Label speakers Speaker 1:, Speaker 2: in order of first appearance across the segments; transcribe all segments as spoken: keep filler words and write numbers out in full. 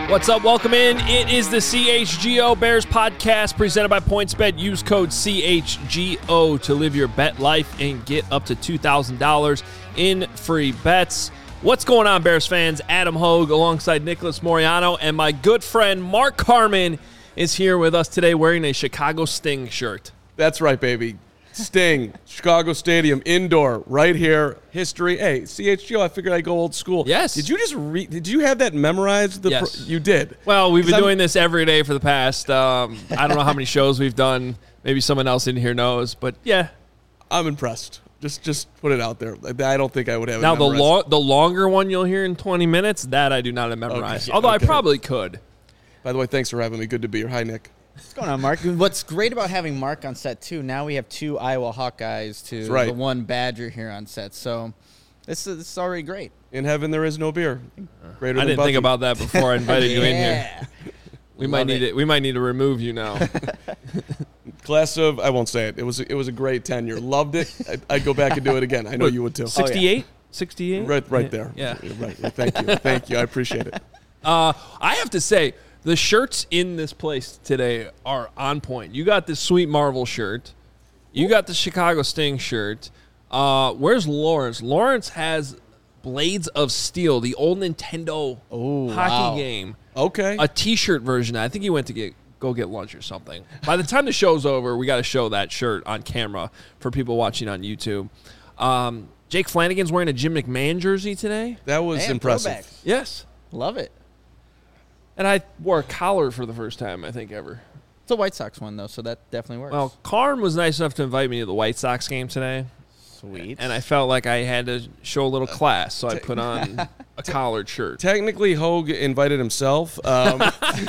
Speaker 1: What's up? Welcome in. It is the C H G O Bears podcast presented by PointsBet. Use code C H G O to live your bet life and get up to two thousand dollars in free bets. What's going on, Bears fans? Adam Hogue alongside Nicholas Moriano, and my good friend Mark Carman is here with us today wearing a Chicago Sting shirt.
Speaker 2: That's right, baby. Sting, Chicago Stadium, indoor, right here. History. Hey, C H G O, I figured I'd go old school.
Speaker 1: Yes.
Speaker 2: Did you just read? Did you have that memorized? The
Speaker 1: Yes.
Speaker 2: Pro- you did.
Speaker 1: Well, we've been
Speaker 2: I'm-
Speaker 1: doing this every day for the past, um, I don't know how many shows we've done. Maybe someone else in here knows, but yeah.
Speaker 2: I'm impressed. Just just put it out there. I don't think I would have
Speaker 1: Now,
Speaker 2: it
Speaker 1: the
Speaker 2: memorized.
Speaker 1: lo- the longer one you'll hear in twenty minutes, that I do not have memorized.
Speaker 2: Okay,
Speaker 1: Although
Speaker 2: okay.
Speaker 1: I probably could.
Speaker 2: By the way, thanks for having me. Good to be here. Hi, Nick.
Speaker 3: What's going on, Mark? What's great about having Mark on set, too, now we have two Iowa Hawkeyes to
Speaker 2: That's right.
Speaker 3: the one Badger here on set. So this is, this is already great.
Speaker 2: In heaven, there is no beer. Greater
Speaker 1: I
Speaker 2: than
Speaker 1: didn't
Speaker 2: Bucky.
Speaker 1: think about that before I invited you in here.
Speaker 3: Yeah.
Speaker 1: We might
Speaker 3: Love
Speaker 1: need
Speaker 3: it.
Speaker 1: it. We might need to remove you now.
Speaker 2: Class of, I won't say it. It was it was a great tenure. Loved it. I'd, I'd go back and do it again. I know you would too.
Speaker 1: sixty-eight? sixty-eight?
Speaker 2: Right, right there.
Speaker 1: Yeah.
Speaker 2: Right. Thank you. Thank you. I appreciate it.
Speaker 1: Uh, I have to say, the shirts in this place today are on point. You got this Sweet Marvel shirt. You got the Chicago Sting shirt. Uh, where's Lawrence? Lawrence has Blades of Steel, the old Nintendo
Speaker 3: Oh,
Speaker 1: hockey
Speaker 3: wow.
Speaker 1: game.
Speaker 2: Okay.
Speaker 1: A T-shirt version. I think he went to get go get lunch or something. By the time the show's over, we got to show that shirt on camera for people watching on YouTube. Um, Jake Flanagan's wearing a Jim McMahon jersey today.
Speaker 2: That was
Speaker 3: Man,
Speaker 2: impressive.
Speaker 3: throwback.
Speaker 1: Yes.
Speaker 3: Love it.
Speaker 1: And I wore a collar for the first time, I think, ever.
Speaker 3: It's a White Sox one, though, so that definitely works.
Speaker 1: Well, Karn was nice enough to invite me to the White Sox game today,
Speaker 3: sweet.
Speaker 1: and I felt like I had to show a little class, so I put on a collared shirt.
Speaker 2: Technically, Hogue invited himself, um,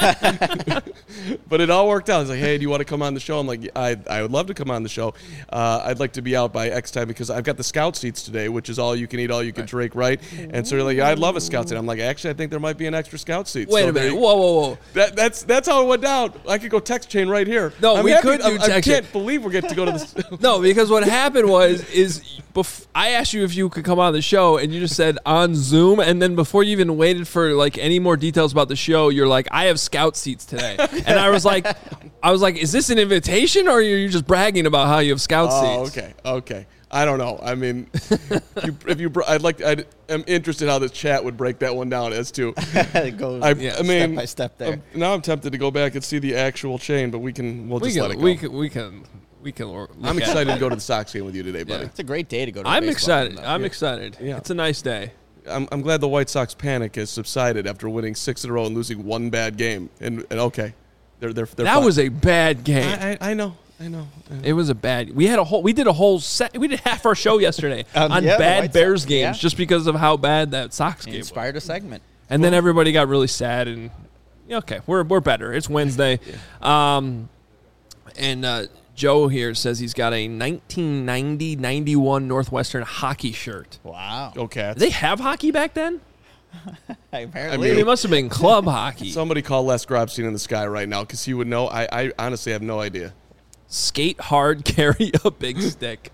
Speaker 2: but it all worked out. He's like, "Hey, do you want to come on the show?" I'm like, "I, I would love to come on the show. Uh, I'd like to be out by X time because I've got the Scout seats today, which is all you can eat, all you can drink, right?" And so you're like, "I'd love a Scout seat." I'm like, "Actually, I think there might be an extra Scout seat."
Speaker 1: Wait
Speaker 2: So
Speaker 1: a minute.
Speaker 2: there-
Speaker 1: Whoa, whoa, whoa.
Speaker 2: That, that's that's how it went down. I could go text chain right here.
Speaker 1: No,
Speaker 2: I'm
Speaker 1: we
Speaker 2: happy-
Speaker 1: could do
Speaker 2: I, I
Speaker 1: text
Speaker 2: can't
Speaker 1: chain.
Speaker 2: believe we're getting to go to this.
Speaker 1: No, because what happened was is bef- I asked you if you could come on the show, and you just said on Zoom, and then before you even waited for like any more details about the show, you're like, "I have Scout seats today," and I was like, "I was like, is this an invitation, or are you just bragging about how you have Scout
Speaker 2: Oh,
Speaker 1: seats?"
Speaker 2: okay, okay. I don't know. I mean, if you, if you, br- I'd like, I am interested how the chat would break that one down as to.
Speaker 3: it goes
Speaker 2: I,
Speaker 1: Yeah,
Speaker 2: I mean,
Speaker 3: step by step there.
Speaker 2: um, now I'm tempted to go back and see the actual chain, but we can. We'll
Speaker 1: We
Speaker 2: just let it
Speaker 1: can,
Speaker 2: go.
Speaker 1: we can, we can, we can. Look
Speaker 2: I'm
Speaker 1: at it.
Speaker 2: excited to go to the Sox game with you today, buddy.
Speaker 1: Yeah.
Speaker 3: It's a great day to go to a
Speaker 1: I'm
Speaker 3: baseball
Speaker 1: excited.
Speaker 3: game, though.
Speaker 1: I'm excited.
Speaker 2: Yeah.
Speaker 1: It's a nice day.
Speaker 2: I'm, I'm glad the White Sox panic has subsided after winning six in a row and losing one bad game. And, and okay, they're they're, they're
Speaker 1: That
Speaker 2: fine.
Speaker 1: was a bad game.
Speaker 2: I, I, I know. I know. I know.
Speaker 1: It was a bad. We had a whole. We did a whole set. We did half our show yesterday
Speaker 3: Um,
Speaker 1: on
Speaker 3: yeah, the
Speaker 1: bad
Speaker 3: White
Speaker 1: Bears
Speaker 3: Sox,
Speaker 1: games
Speaker 3: yeah.
Speaker 1: just because of how bad that Sox
Speaker 3: It
Speaker 1: game was.
Speaker 3: inspired a segment.
Speaker 1: And then everybody got really sad and yeah, okay, we're we're better. It's Wednesday. Um, and uh, Joe here says he's got a nineteen ninety ninety-one Northwestern hockey shirt.
Speaker 3: Wow.
Speaker 2: Go Cats.
Speaker 1: Did they have hockey back then?
Speaker 3: Apparently.
Speaker 1: I mean, it must have been club hockey.
Speaker 2: Somebody call Les Grobstein in the sky right now because he would know. I, I honestly have no idea.
Speaker 1: Skate hard, carry a big stick.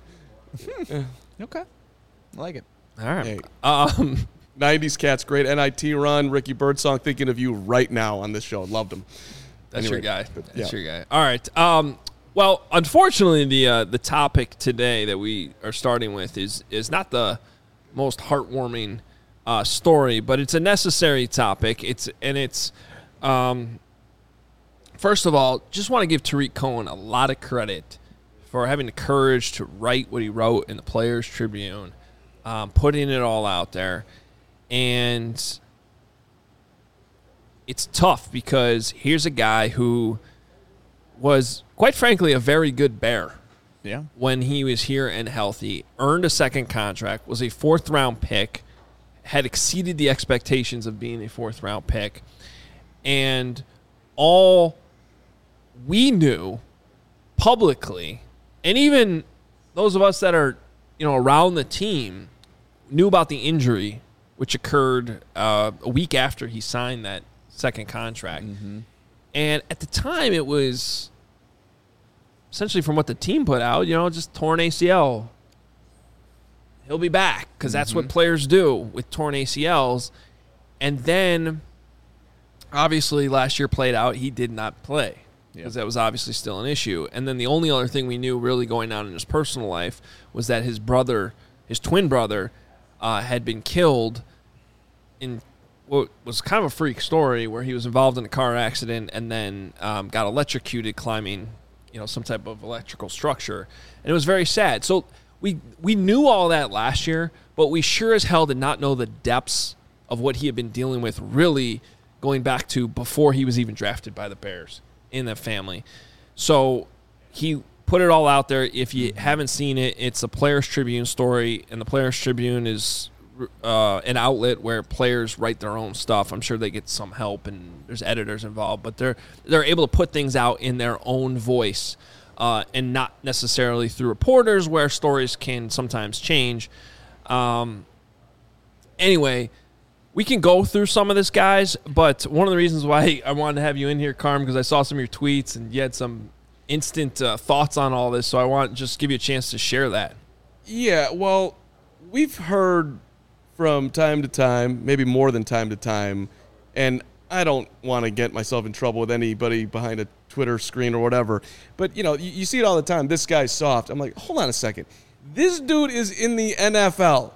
Speaker 3: okay. I like it.
Speaker 1: All right.
Speaker 2: Hey.
Speaker 1: Um,
Speaker 2: nineties Cats, great N I T run. Ricky Birdsong, thinking of you right now on this show. Loved him.
Speaker 1: That's
Speaker 2: Anyway,
Speaker 1: your guy.
Speaker 2: but,
Speaker 1: That's
Speaker 2: yeah.
Speaker 1: your guy. All right. Um, well, unfortunately, the uh, the topic today that we are starting with is is not the most heartwarming uh, story, but it's a necessary topic. It's and it's um, first of all, just want to give Tariq Cohen a lot of credit for having the courage to write what he wrote in the Players Tribune, um, putting it all out there, and it's tough because here's a guy who was, quite frankly, a very good Bear
Speaker 3: Yeah.
Speaker 1: when he was here and healthy, earned a second contract, was a fourth-round pick, had exceeded the expectations of being a fourth-round pick, and all we knew publicly, and even those of us that are, you know, around the team, knew about the injury, which occurred uh, a week after he signed that second contract.
Speaker 3: Mm-hmm.
Speaker 1: And at the time, it was essentially from what the team put out, you know, just torn A C L. He'll be back because that's what players do with torn A C Ls. And then obviously last year played out. He did not play because
Speaker 3: Yeah.
Speaker 1: that was obviously still an issue. And then the only other thing we knew really going on in his personal life was that his brother, his twin brother, uh, had been killed in what was kind of a freak story where he was involved in a car accident and then um, got electrocuted climbing, you know, some type of electrical structure. And it was very sad. So we we knew all that last year, but we sure as hell did not know the depths of what he had been dealing with really going back to before he was even drafted by the Bears in the family. So he put it all out there. If you haven't seen it, it's a Players Tribune story, and the Players Tribune is uh, an outlet where players write their own stuff. I'm sure they get some help, and there's editors involved, but they're they're able to put things out in their own voice uh, and not necessarily through reporters where stories can sometimes change. Um, anyway, we can go through some of this, guys, but one of the reasons why I wanted to have you in here, Carm, because I saw some of your tweets and you had some instant uh, thoughts on all this, so I want to just give you a chance to share that.
Speaker 2: Yeah, well, we've heard from time to time, maybe more than time to time, and I don't want to get myself in trouble with anybody behind a Twitter screen or whatever, but, you know, you, you see it all the time. This guy's soft. I'm like, hold on a second. This dude is in the N F L.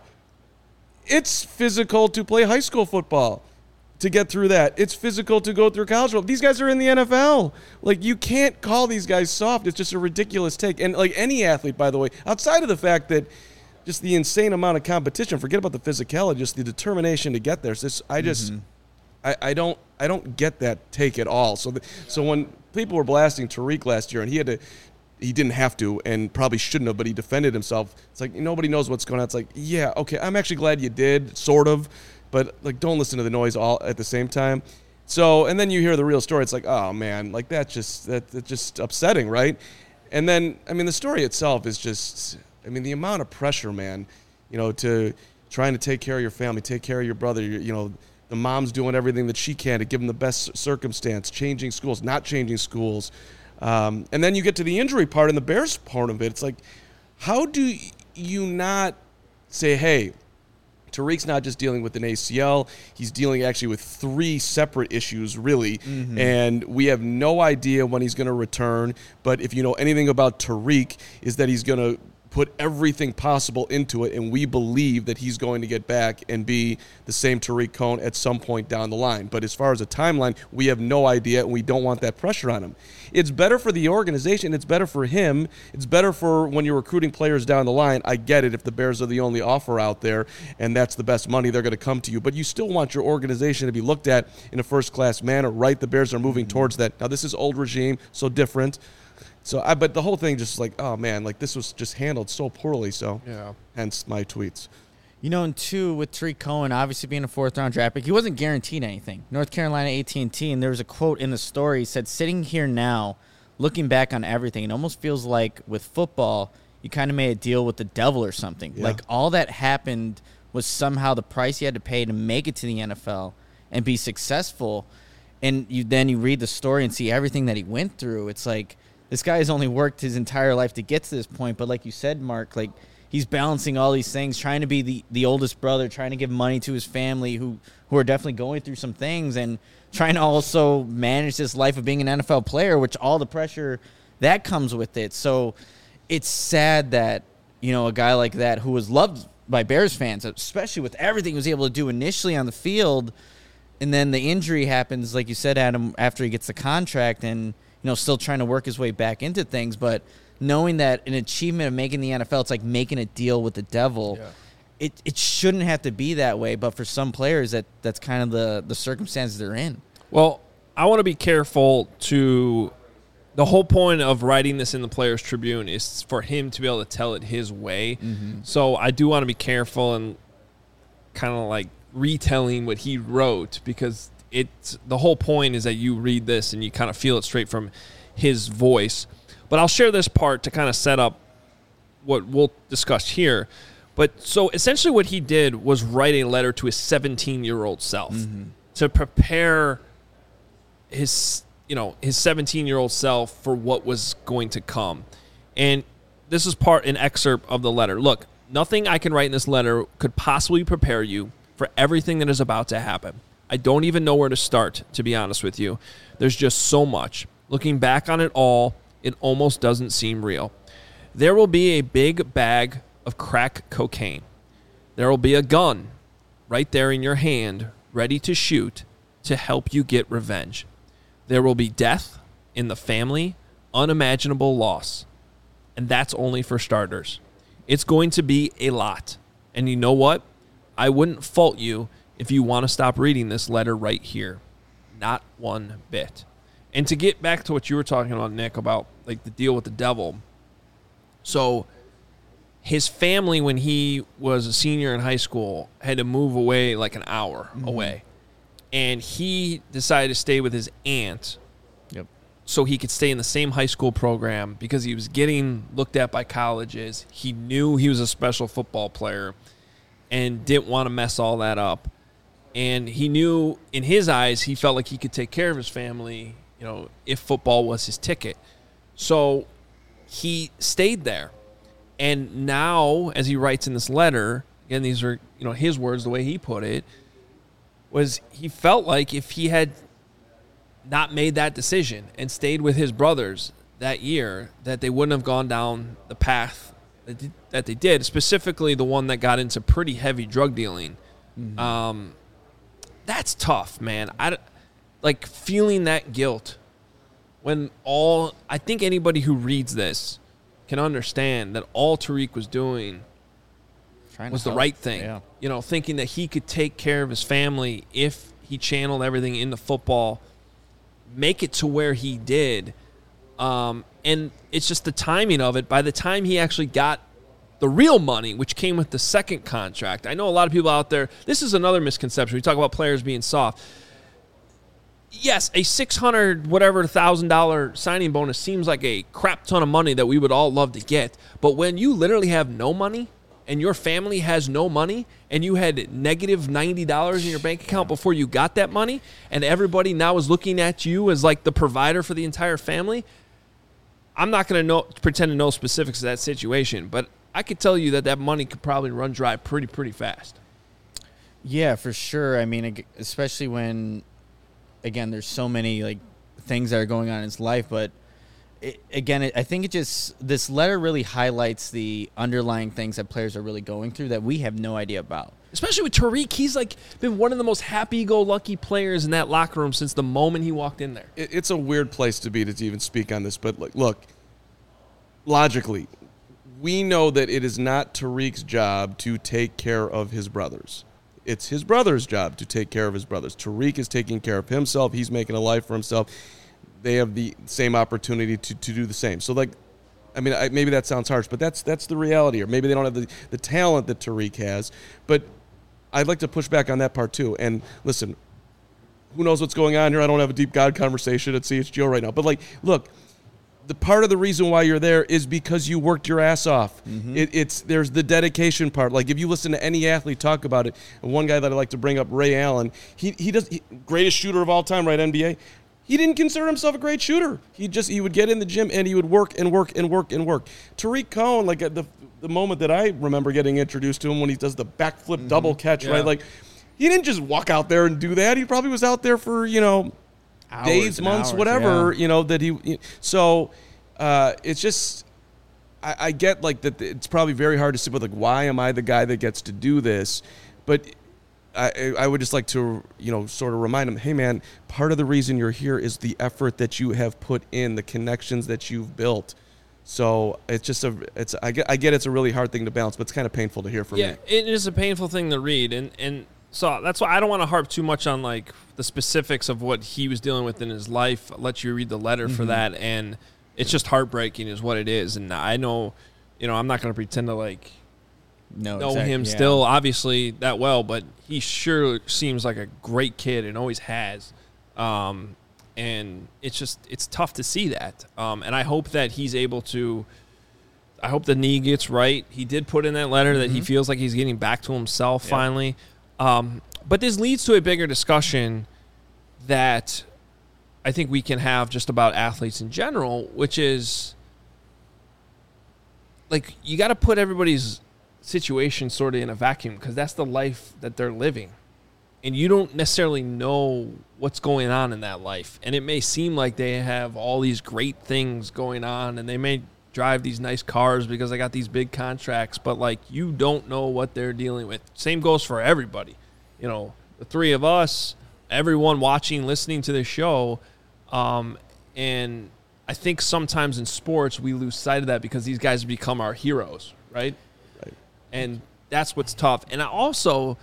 Speaker 2: It's physical to play high school football, to get through that. It's physical to go through college football. These guys are in the N F L. Like, you can't call these guys soft. It's just a ridiculous take. And, like, any athlete, by the way, outside of the fact that just the insane amount of competition, forget about the physicality, just the determination to get there. So this, I just, mm-hmm. I, I don't I don't get that take at all. So, the, so when people were blasting Tariq last year, and he had to, he didn't have to and probably shouldn't have, but he defended himself. It's like, nobody knows what's going on. It's like, yeah, okay, I'm actually glad you did, sort of, but, like, don't listen to the noise all at the same time. So, and then you hear the real story. It's like, oh, man, like, that's just, that, that's just upsetting, right? And then, I mean, the story itself is just, I mean, the amount of pressure, man, you know, to trying to take care of your family, take care of your brother, you, you know, the mom's doing everything that she can to give him the best circumstance, changing schools, not changing schools. Um, and then you get to the injury part and the Bears part of it. It's like, how do you not say, hey, Tariq's not just dealing with an A C L, he's dealing actually with three separate issues, really, mm-hmm. and we have no idea when he's going to return. But if you know anything about Tariq, is that he's going to put everything possible into it, and we believe that he's going to get back and be the same Tariq Cohen at some point down the line. But as far as a timeline, we have no idea, and we don't want that pressure on him. It's better for the organization. It's better for him. It's better for when you're recruiting players down the line. I get it if the Bears are the only offer out there, and that's the best money, they're going to come to you. But you still want your organization to be looked at in a first-class manner, right? The Bears are moving mm-hmm. towards that. Now, this is old regime, so different. So, I, but the whole thing just like, oh, man, like this was just handled so poorly. So, yeah. Hence my tweets.
Speaker 3: You know, and two, with Tariq Cohen obviously being a fourth-round draft pick, he wasn't guaranteed anything. North Carolina A T and T, and there was a quote in the story, said, sitting here now, looking back on everything, it almost feels like with football, you kind of made a deal with the devil or something. Yeah. Like all that happened was somehow the price you had to pay to make it to the N F L and be successful. And you then you read the story and see everything that he went through. It's like, this guy has only worked his entire life to get to this point. But like you said, Mark, like he's balancing all these things, trying to be the, the oldest brother, trying to give money to his family who, who are definitely going through some things, and trying to also manage this life of being an N F L player, which all the pressure that comes with it. So it's sad that, you know, a guy like that who was loved by Bears fans, especially with everything he was able to do initially on the field, and then the injury happens, like you said, Adam, after he gets the contract and, you know, still trying to work his way back into things. But knowing that an achievement of making the N F L, it's like making a deal with the devil. Yeah. It it shouldn't have to be that way, but for some players, that that's kind of the, the circumstances they're in.
Speaker 1: Well, I want to be careful to – the whole point of writing this in the Players Tribune is for him to be able to tell it his way. Mm-hmm. So I do want to be careful and kind of like retelling what he wrote, because – It's the whole point is that you read this and you kind of feel it straight from his voice. But I'll share this part to kind of set up what we'll discuss here. But so essentially what he did was write a letter to his seventeen-year-old self mm-hmm. to prepare his, you know, his seventeen-year-old self for what was going to come. And this is part, an excerpt of the letter. Look, nothing I can write in this letter could possibly prepare you for everything that is about to happen. I don't even know where to start, to be honest with you. There's just so much. Looking back on it all, it almost doesn't seem real. There will be a big bag of crack cocaine. There will be a gun right there in your hand, ready to shoot to help you get revenge. There will be death in the family, unimaginable loss. And that's only for starters. It's going to be a lot. And you know what? I wouldn't fault you if you want to stop reading this letter right here. Not one bit. And to get back to what you were talking about, Nick, about like the deal with the devil. So his family, when he was a senior in high school, had to move away like an hour mm-hmm. away. And he decided to stay with his aunt
Speaker 3: yep.
Speaker 1: so he could stay in the same high school program because he was getting looked at by colleges. He knew he was a special football player and didn't want to mess all that up. And he knew in his eyes, he felt like he could take care of his family, you know, if football was his ticket. So he stayed there. And now, as he writes in this letter, again, these are, you know, his words, the way he put it, was he felt like if he had not made that decision and stayed with his brothers that year, that they wouldn't have gone down the path that they did, specifically the one that got into pretty heavy drug dealing. Mm-hmm. Um, that's tough, man. I, like, feeling that guilt when all – I think anybody who reads this can understand that all Tariq was doing Trying was the help. right thing.
Speaker 3: Yeah.
Speaker 1: You know, thinking that he could take care of his family if he channeled everything into football, make it to where he did. Um, and it's just the timing of it. By the time he actually got the real money, which came with the second contract, I know a lot of people out there, this is another misconception. We talk about players being soft. Yes, a six hundred whatever thousand dollar signing bonus seems like a crap ton of money that we would all love to get. But when you literally have no money and your family has no money and you had negative ninety dollars in your bank account before you got that money and everybody now is looking at you as like the provider for the entire family, I'm not going to know pretend to know specifics of that situation, but I could tell you that that money could probably run dry pretty, pretty fast.
Speaker 3: Yeah, for sure. I mean, especially when, again, there's so many like things that are going on in his life, but it, again, it, I think it just, this letter really highlights the underlying things that players are really going through that we have no idea about.
Speaker 1: Especially with Tariq, he's like been one of the most happy-go-lucky players in that locker room since the moment he walked in there.
Speaker 2: It, it's a weird place to be to even speak on this, but look, look, logically, we know that it is not Tariq's job to take care of his brothers. It's his brother's job to take care of his brothers. Tariq is taking care of himself. He's making a life for himself. They have the same opportunity to, to do the same. So, like, I mean, I, maybe that sounds harsh, but that's that's the reality. Or maybe they don't have the, the talent that Tariq has. But I'd like to push back on that part, too. And, listen, who knows what's going on here? I don't have a deep God conversation at C H G O right now. But, like, look, the part of the reason why you're there is because you worked your ass off. Mm-hmm. It, it's there's the dedication part. Like if you listen to any athlete talk about it, and one guy that I like to bring up, Ray Allen, he he does he, greatest shooter of all time, right? N B A. He didn't consider himself a great shooter. He just he would get in the gym and he would work and work and work and work. Tariq Cohen, like at the the moment that I remember getting introduced to him when he does the backflip mm-hmm. double catch, yeah. right? Like he didn't just walk out there and do that. He probably was out there for you know. Hours days, months, hours, whatever, yeah. you know, that he, so uh, it's just, I, I get like that it's probably very hard to sit with like, why am I the guy that gets to do this? But I, I would just like to, you know, sort of remind him, hey man, part of the reason you're here is the effort that you have put in, the connections that you've built. So it's just a, it's, I get, I get it's a really hard thing to balance, but it's kind of painful to hear from
Speaker 1: yeah,
Speaker 2: me.
Speaker 1: Yeah, it is a painful thing to read. And, and, So that's why I don't want to harp too much on like the specifics of what he was dealing with in his life. I'll let you read the letter mm-hmm. for that, and it's just heartbreaking, is what it is. And I know, you know, I'm not going to pretend to like
Speaker 3: no,
Speaker 1: know
Speaker 3: exactly,
Speaker 1: him
Speaker 3: yeah.
Speaker 1: still obviously that well, but he sure seems like a great kid and always has. Um, and it's just it's tough to see that. Um, and I hope that he's able to. I hope the knee gets right. He did put in that letter mm-hmm. that he feels like he's getting back to himself yeah. finally. Um, but this leads to a bigger discussion that I think we can have just about athletes in general, which is like you got to put everybody's situation sort of in a vacuum because that's the life that they're living. and you don't necessarily know what's going on in that life. And it may seem like they have all these great things going on, and they may drive these nice cars because they got these big contracts, but like you don't know what they're dealing with. Same goes for everybody. You know, the three of us, everyone watching, listening to this show, um, and I think sometimes in sports we lose sight of that because these guys become our heroes, right?
Speaker 2: Right.
Speaker 1: And that's what's tough. And I also,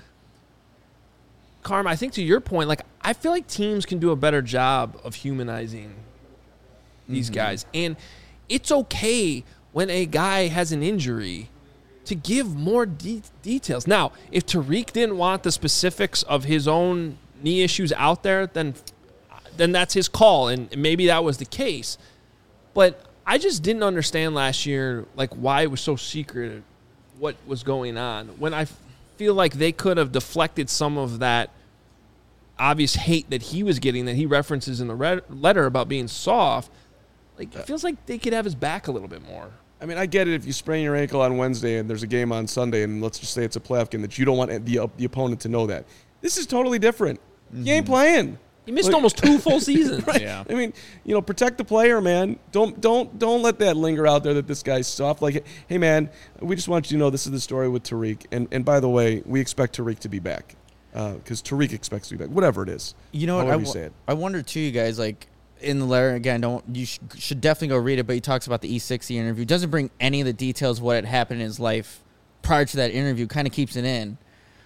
Speaker 1: Carm, I think to your point, like I feel like teams can do a better job of humanizing these mm-hmm. guys. And it's okay when a guy has an injury to give more de- details. Now, if Tariq didn't want the specifics of his own knee issues out there, then then that's his call, and maybe that was the case. But I just didn't understand last year, like, why it was so secret what was going on, when I feel like they could have deflected some of that obvious hate that he was getting, that he references in the red letter about being soft. Like, it feels like they could have his back a little bit more.
Speaker 2: I mean, I get it if you sprain your ankle on Wednesday and there's a game on Sunday, and let's just say it's a playoff game, that you don't want the, the opponent to know that. This is totally different. Mm-hmm. You ain't playing.
Speaker 1: He missed
Speaker 2: like,
Speaker 1: almost two full seasons.
Speaker 2: Right?
Speaker 3: Yeah.
Speaker 2: I mean, you know, protect the player, man. Don't don't don't let that linger out there that this guy's soft. Like, hey, man, we just want you to know this is the story with Tariq. And and by the way, we expect Tariq to be back because uh, Tariq expects to be back. Whatever it is.
Speaker 3: You know what? I,
Speaker 2: you
Speaker 3: w-
Speaker 2: say it.
Speaker 3: I wonder too, you guys. Like in the letter again, don't you sh- should definitely go read it. But he talks about the E sixty interview. Doesn't bring any of the details of what had happened in his life prior to that interview. Kind of keeps it in.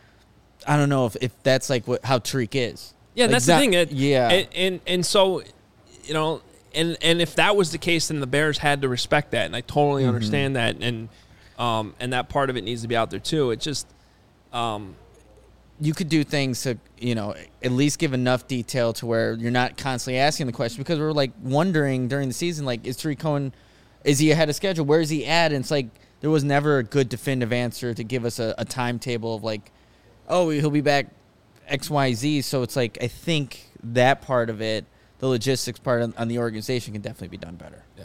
Speaker 3: I don't know if, if that's like what how Tariq is.
Speaker 1: Yeah,
Speaker 3: like
Speaker 1: that's
Speaker 3: that,
Speaker 1: the thing. It,
Speaker 3: yeah,
Speaker 1: and, and and so, you know, and and if that was the case, then the Bears had to respect that, and I totally mm-hmm. understand that, and um and that part of it needs to be out there too. It just, um,
Speaker 3: you could do things to, you know, at least give enough detail to where you're not constantly asking the question, because we're like wondering during the season, like, is Tariq Cohen, is he ahead of schedule? Where is he at? And it's like there was never a good definitive answer to give us a, a timetable of like, oh, he'll be back X, Y, Z. So it's like, I think that part of it, the logistics part on, on the organization, can definitely be done better.
Speaker 1: Yeah.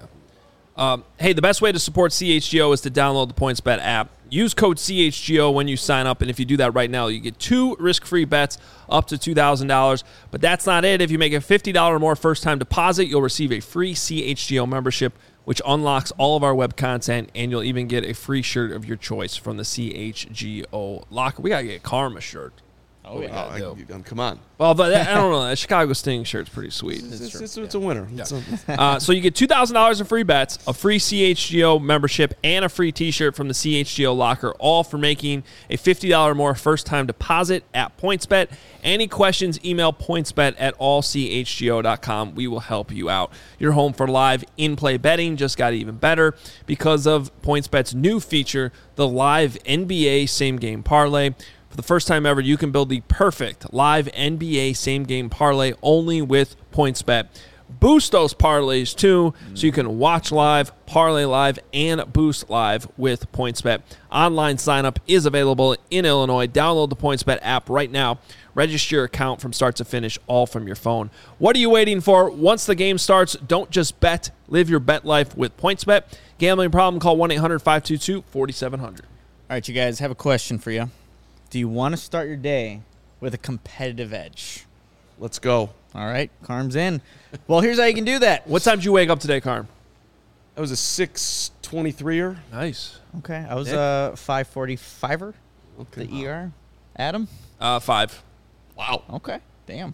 Speaker 1: Um, hey, the best way to support C H G O is to download the PointsBet app. Use code C H G O when you sign up, and if you do that right now, you get two risk-free bets up to two thousand dollars. But that's not it. If you make a fifty dollars or more first-time deposit, you'll receive a free C H G O membership, which unlocks all of our web content, and you'll even get a free shirt of your choice from the C H G O locker. We got to get a Karma shirt.
Speaker 2: Oh, yeah. Oh, I, come on.
Speaker 1: Well, but I don't know. That Chicago Sting shirt's pretty sweet.
Speaker 2: It's, it's, it's, it's a winner.
Speaker 1: Yeah.
Speaker 2: It's a,
Speaker 1: uh, so you get two thousand dollars in free bets, a free C H G O membership, and a free T-shirt from the C H G O locker, all for making a fifty dollars or more first-time deposit at PointsBet. Any questions, email pointsbet at all c h g o dot com. We will help you out. Your home for live in-play betting just got even better because of PointsBet's new feature, the live N B A same-game parlay. For the first time ever, you can build the perfect live N B A same-game parlay only with PointsBet. Boost those parlays, too, so you can watch live, parlay live, and boost live with PointsBet. Online sign-up is available in Illinois. Download the PointsBet app right now. Register your account from start to finish, all from your phone. What are you waiting for? Once the game starts, don't just bet. Live your bet life with PointsBet. Gambling problem? Call one eight hundred five two two four seven zero zero.
Speaker 3: All right, you guys, have a question for you. Do you want to start your day with a competitive edge?
Speaker 2: Let's go.
Speaker 3: All right, Carm's in. Well, here's how you can do that.
Speaker 1: What time did you wake up today, Carm?
Speaker 2: That was a six twenty-three-er.
Speaker 1: Nice.
Speaker 3: Okay, I was
Speaker 1: Nick?
Speaker 3: a five forty-five-er,
Speaker 2: Okay.
Speaker 3: the E R. Adam?
Speaker 1: Uh, five.
Speaker 2: Wow.
Speaker 3: Okay, damn.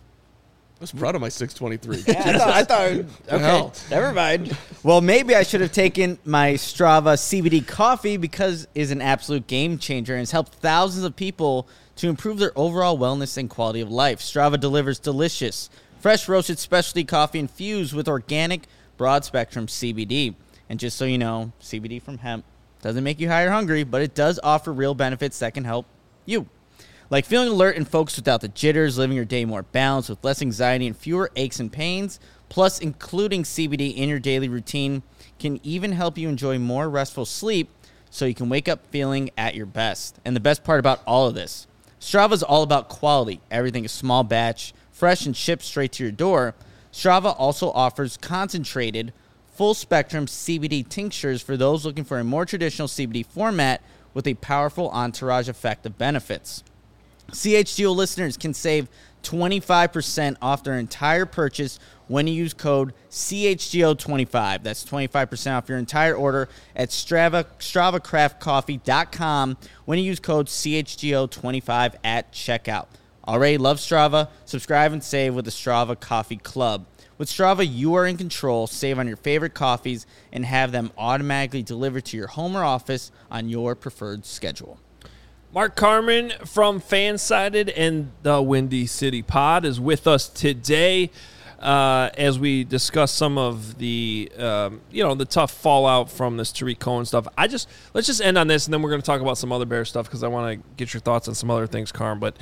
Speaker 2: I was proud of my six twenty-three.
Speaker 3: Yeah, I thought, I thought okay,
Speaker 2: hell?
Speaker 3: never mind. Well, maybe I should have taken my Strava C B D coffee because it is an absolute game changer and has helped thousands of people to improve their overall wellness and quality of life. Strava delivers delicious, fresh roasted specialty coffee infused with organic, broad-spectrum C B D. And just so you know, C B D from hemp doesn't make you high or hungry, but it does offer real benefits that can help you. Like feeling alert and focused without the jitters, living your day more balanced with less anxiety and fewer aches and pains, plus including C B D in your daily routine can even help you enjoy more restful sleep so you can wake up feeling at your best. And the best part about all of this, Strava is all about quality. Everything is small batch, fresh, and shipped straight to your door. Strava also offers concentrated, full-spectrum C B D tinctures for those looking for a more traditional C B D format with a powerful entourage effect of benefits. C H G O listeners can save twenty-five percent off their entire purchase when you use code C H G O twenty-five. That's twenty-five percent off your entire order at Strava, strava craft coffee dot com when you use code C H G O twenty-five at checkout. Already love Strava? Subscribe and save with the Strava Coffee Club. With Strava, you are in control. Save on your favorite coffees and have them automatically delivered to your home or office on your preferred schedule.
Speaker 1: Mark Carman from Fansided and the Windy City Pod is with us today uh, as we discuss some of the um, you know the tough fallout from this Tarik Cohen stuff. I just let's just end on this, and then we're going to talk about some other Bear stuff because I want to get your thoughts on some other things, Carm. But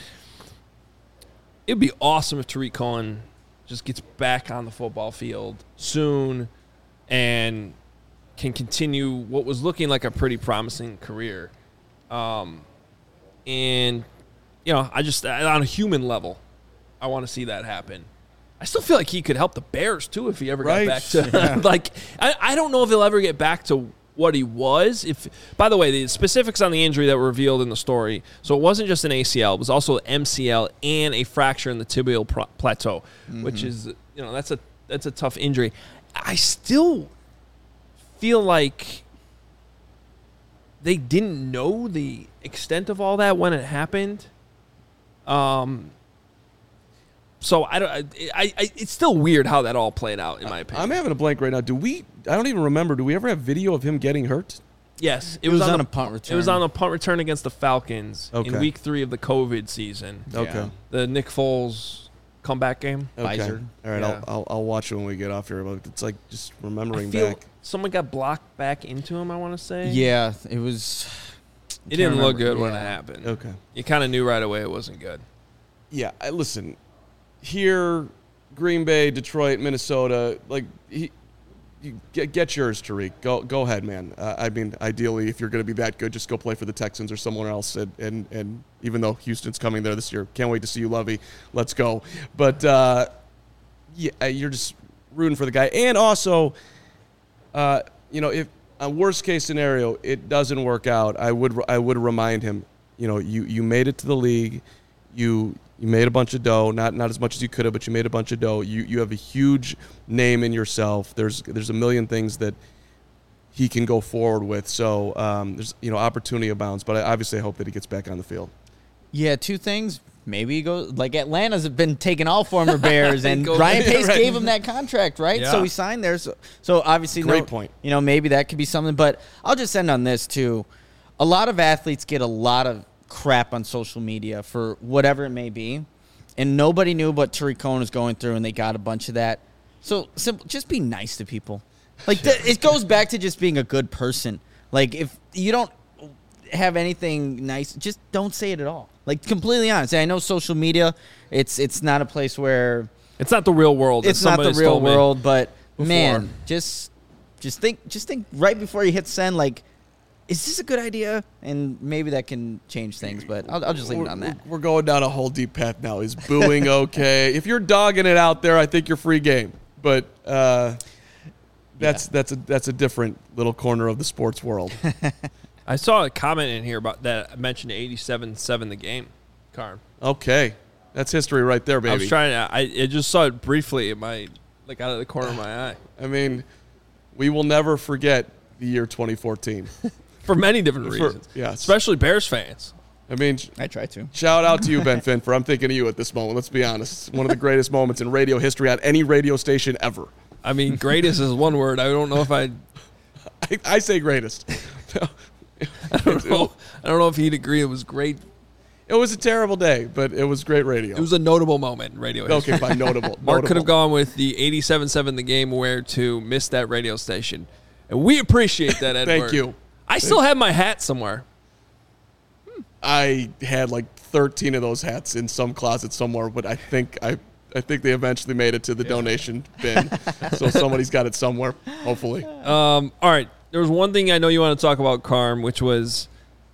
Speaker 1: it'd be awesome if Tarik Cohen just gets back on the football field soon and can continue what was looking like a pretty promising career. Um, And, you know, I just, on a human level, I want to see that happen. I still feel like he could help the Bears, too, if he ever
Speaker 2: Right.
Speaker 1: got back to,
Speaker 2: Yeah.
Speaker 1: like, I, I don't know if he'll ever get back to what he was. If, by the way, the specifics on the injury that were revealed in the story, so it wasn't just an A C L, it was also an M C L and a fracture in the tibial pro- plateau, mm-hmm. which is, you know, that's a that's a tough injury. I still feel like they didn't know the extent of all that when it happened. Um, so I don't. I, I. It's still weird how that all played out, in my opinion.
Speaker 2: I'm having a blank right now. Do we? I don't even remember. Do we ever have video of him getting hurt?
Speaker 1: Yes,
Speaker 3: it, it was, was on
Speaker 1: the,
Speaker 3: a punt return.
Speaker 1: It was on a punt return against the Falcons
Speaker 2: okay.
Speaker 1: in week three of the COVID season.
Speaker 2: Okay.
Speaker 1: Yeah. The Nick Foles comeback game.
Speaker 2: Okay.
Speaker 3: Pfizer.
Speaker 2: All right,
Speaker 1: Yeah.
Speaker 2: I'll, I'll I'll watch it when we get off here. But it's like just remembering
Speaker 1: I feel
Speaker 2: back.
Speaker 1: someone got blocked back into him. I want to say.
Speaker 3: Yeah, it was.
Speaker 1: It didn't look
Speaker 3: remember.
Speaker 1: good when
Speaker 3: Yeah.
Speaker 1: it happened.
Speaker 2: Okay.
Speaker 1: You kind of knew right away it wasn't good.
Speaker 2: Yeah, I, listen. Here, Green Bay, Detroit, Minnesota. Like he, you get get yours, Tarik. Go go ahead, man. Uh, I mean, ideally, if you're going to be that good, just go play for the Texans or someone else. And, and and even though Houston's coming there this year, can't wait to see you, Lovey. Let's go. But uh, yeah, you're just rooting for the guy. And also, uh, you know, if a worst case scenario, it doesn't work out, I would I would remind him, you know, you, you made it to the league, you you made a bunch of dough, not not as much as you could have, but you made a bunch of dough. You you have a huge name in yourself. There's there's a million things that he can go forward with. So um, there's you know opportunity abounds. But I obviously I hope that he gets back on the field.
Speaker 3: Yeah, two things. Maybe he goes like Atlanta's been taking all former Bears, and
Speaker 1: Go-
Speaker 3: Ryan
Speaker 1: yeah,
Speaker 3: Pace
Speaker 1: right.
Speaker 3: gave him that contract, right?
Speaker 1: Yeah.
Speaker 3: So he signed there. So, so obviously,
Speaker 2: Great
Speaker 3: no,
Speaker 2: point.
Speaker 3: You know, maybe that could be something. But I'll just end on this too. A lot of athletes get a lot of crap on social media for whatever it may be, and nobody knew what Tarik Cohen was going through, and they got a bunch of that. So simple, just be nice to people. Like th- it goes back to just being a good person. Like if you don't have anything nice, just don't say it at all. Like completely honest. And I know social media, it's it's not a place where
Speaker 1: It's not the real world. as
Speaker 3: it's not the
Speaker 1: somebody's
Speaker 3: real
Speaker 1: told me.
Speaker 3: world, but
Speaker 1: before.
Speaker 3: man, just just think just think right before you hit send, like, is this a good idea? And maybe that can change things, but I'll, I'll just leave it on that.
Speaker 2: We're going down a whole deep path now. Is booing okay? If you're dogging it out there, I think you're free game. But uh, that's
Speaker 3: Yeah.
Speaker 2: that's a that's a different little corner of the sports world.
Speaker 1: I saw a comment in here about that mentioned eighty-seven seven the game, Carm.
Speaker 2: Okay, that's history right there, baby.
Speaker 1: I was trying to. I, I just saw it briefly in my, like out of the corner of my eye.
Speaker 2: I mean, we will never forget the year twenty fourteen.
Speaker 1: For many different
Speaker 2: For-
Speaker 1: reasons.
Speaker 2: yes.
Speaker 1: Especially Bears fans.
Speaker 2: I mean,
Speaker 3: I try to.
Speaker 2: shout out to you, Ben Finfer. I'm thinking of you at this moment. Let's be honest. One of the greatest moments in radio history on any radio station ever.
Speaker 1: I mean, greatest is one word. I don't know if I.
Speaker 2: I, I say greatest.
Speaker 1: I don't know. I don't know if he'd agree. It was great.
Speaker 2: It was a terrible day, but it was great radio.
Speaker 1: It was a notable moment in radio history.
Speaker 2: okay, fine, notable.
Speaker 1: Mark could
Speaker 2: notable.
Speaker 1: have gone with the eighty-seven seven the game where to miss that radio station. And we appreciate that, Edward.
Speaker 2: Thank you.
Speaker 1: I still have my hat somewhere.
Speaker 2: I had like thirteen of those hats in some closet somewhere, but I think I I think they eventually made it to the donation bin. So somebody's got it somewhere, hopefully.
Speaker 1: Um, all right. There was one thing I know you want to talk about, Carm, which was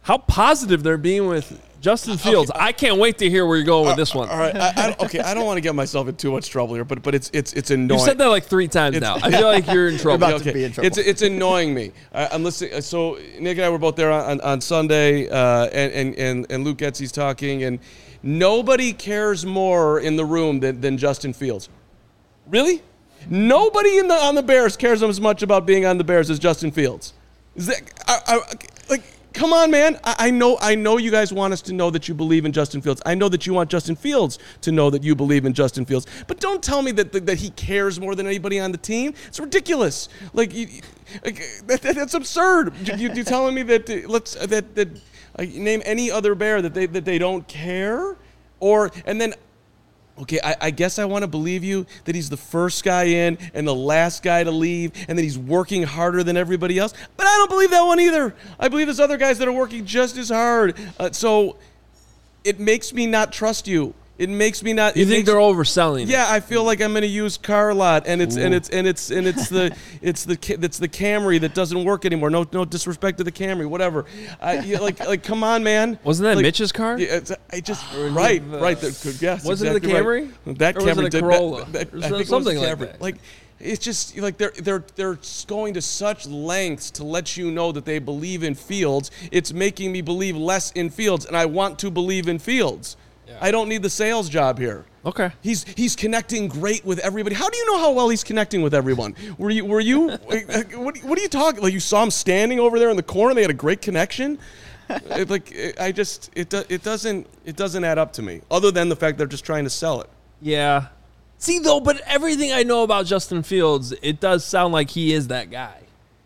Speaker 1: how positive they're being with Justin Fields.
Speaker 2: Okay.
Speaker 1: I can't wait to hear where you're going with this one.
Speaker 2: All right, I, I, okay, I don't want to get myself in too much trouble here, but but it's it's it's annoying.
Speaker 1: You said that like three times now. I feel like you're in trouble.
Speaker 3: about to be in trouble.
Speaker 2: It's it's annoying me. I, I'm listening. So Nick and I were both there on, on Sunday, uh, and, and and and Luke Getsy's talking, and nobody cares more in the room than, than Justin Fields. Really? Nobody in the on the Bears cares as much about being on the Bears as Justin Fields. Is that I, I, like? Come on, man. I, I know I know you guys want us to know that you believe in Justin Fields. I know that you want Justin Fields to know that you believe in Justin Fields. But don't tell me that that, that he cares more than anybody on the team. It's ridiculous. Like, you, like that, that, that's absurd. You, you're telling me that uh, let's uh, that that uh, name any other Bear that they that they don't care, or and then. Okay, I, I guess I want to believe you that he's the first guy in and the last guy to leave and that he's working harder than everybody else. But I don't believe that one either. I believe there's other guys that are working just as hard. Uh, so it makes me not trust you. It makes me not.
Speaker 1: You think
Speaker 2: makes,
Speaker 1: they're overselling?
Speaker 2: Yeah,
Speaker 1: it.
Speaker 2: I feel like I'm in a used car lot, and it's
Speaker 1: Ooh.
Speaker 2: and it's and it's and it's the it's the it's the Camry that doesn't work anymore. No, no disrespect to the Camry, whatever. I, yeah, like like come on, man.
Speaker 1: Wasn't that
Speaker 2: like,
Speaker 1: Mitch's car?
Speaker 2: Yeah, it's, I just right,
Speaker 1: the,
Speaker 2: right. The, yes,
Speaker 1: was
Speaker 2: exactly
Speaker 1: it the Camry?
Speaker 2: Right. That
Speaker 1: or
Speaker 2: Camry
Speaker 1: was it a
Speaker 2: did
Speaker 1: Corolla?
Speaker 2: That, that,
Speaker 1: or
Speaker 2: I think
Speaker 1: something
Speaker 2: it was
Speaker 1: like
Speaker 2: Camry.
Speaker 1: that.
Speaker 2: Like it's just like they're they're they're going to such lengths to let you know that they believe in Fields. It's making me believe less in Fields, and I want to believe in Fields. Yeah. I don't need the sales job here.
Speaker 1: Okay.
Speaker 2: He's he's connecting great with everybody. How do you know how well he's connecting with everyone? Were you were you what what are you talking? Like you saw him standing over there in the corner. They had a great connection. it, like it, I just it do, it doesn't it doesn't add up to me. Other than the fact they're just trying to sell it.
Speaker 1: Yeah. See though, but everything I know about Justin Fields, it does sound like he is that guy.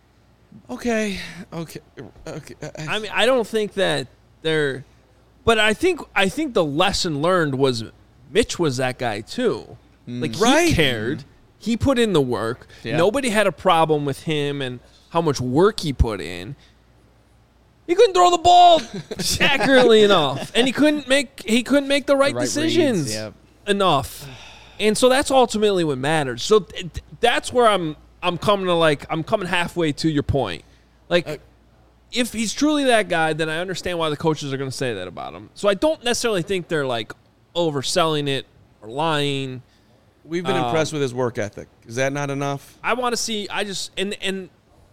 Speaker 2: Okay. Okay. Okay.
Speaker 1: I mean, I don't think that they're. But I think I think the lesson learned was Mitch was that guy too. Like he
Speaker 2: Right.
Speaker 1: cared, he put in the work.
Speaker 3: Yeah.
Speaker 1: Nobody had a problem with him and how much work he put in. He couldn't throw the ball accurately enough, and he couldn't make he couldn't make the right,
Speaker 3: right
Speaker 1: decisions
Speaker 3: reads, yep.
Speaker 1: enough. And so that's ultimately what matters. So th- that's where I'm I'm coming to like I'm coming halfway to your point, like.
Speaker 2: Uh,
Speaker 1: If he's truly that guy, then I understand why the coaches are going to say that about him. So I don't necessarily think they're like overselling it or lying.
Speaker 2: We've been
Speaker 1: Um,
Speaker 2: impressed with his work ethic. Is that not enough?
Speaker 1: I want to see. I just and and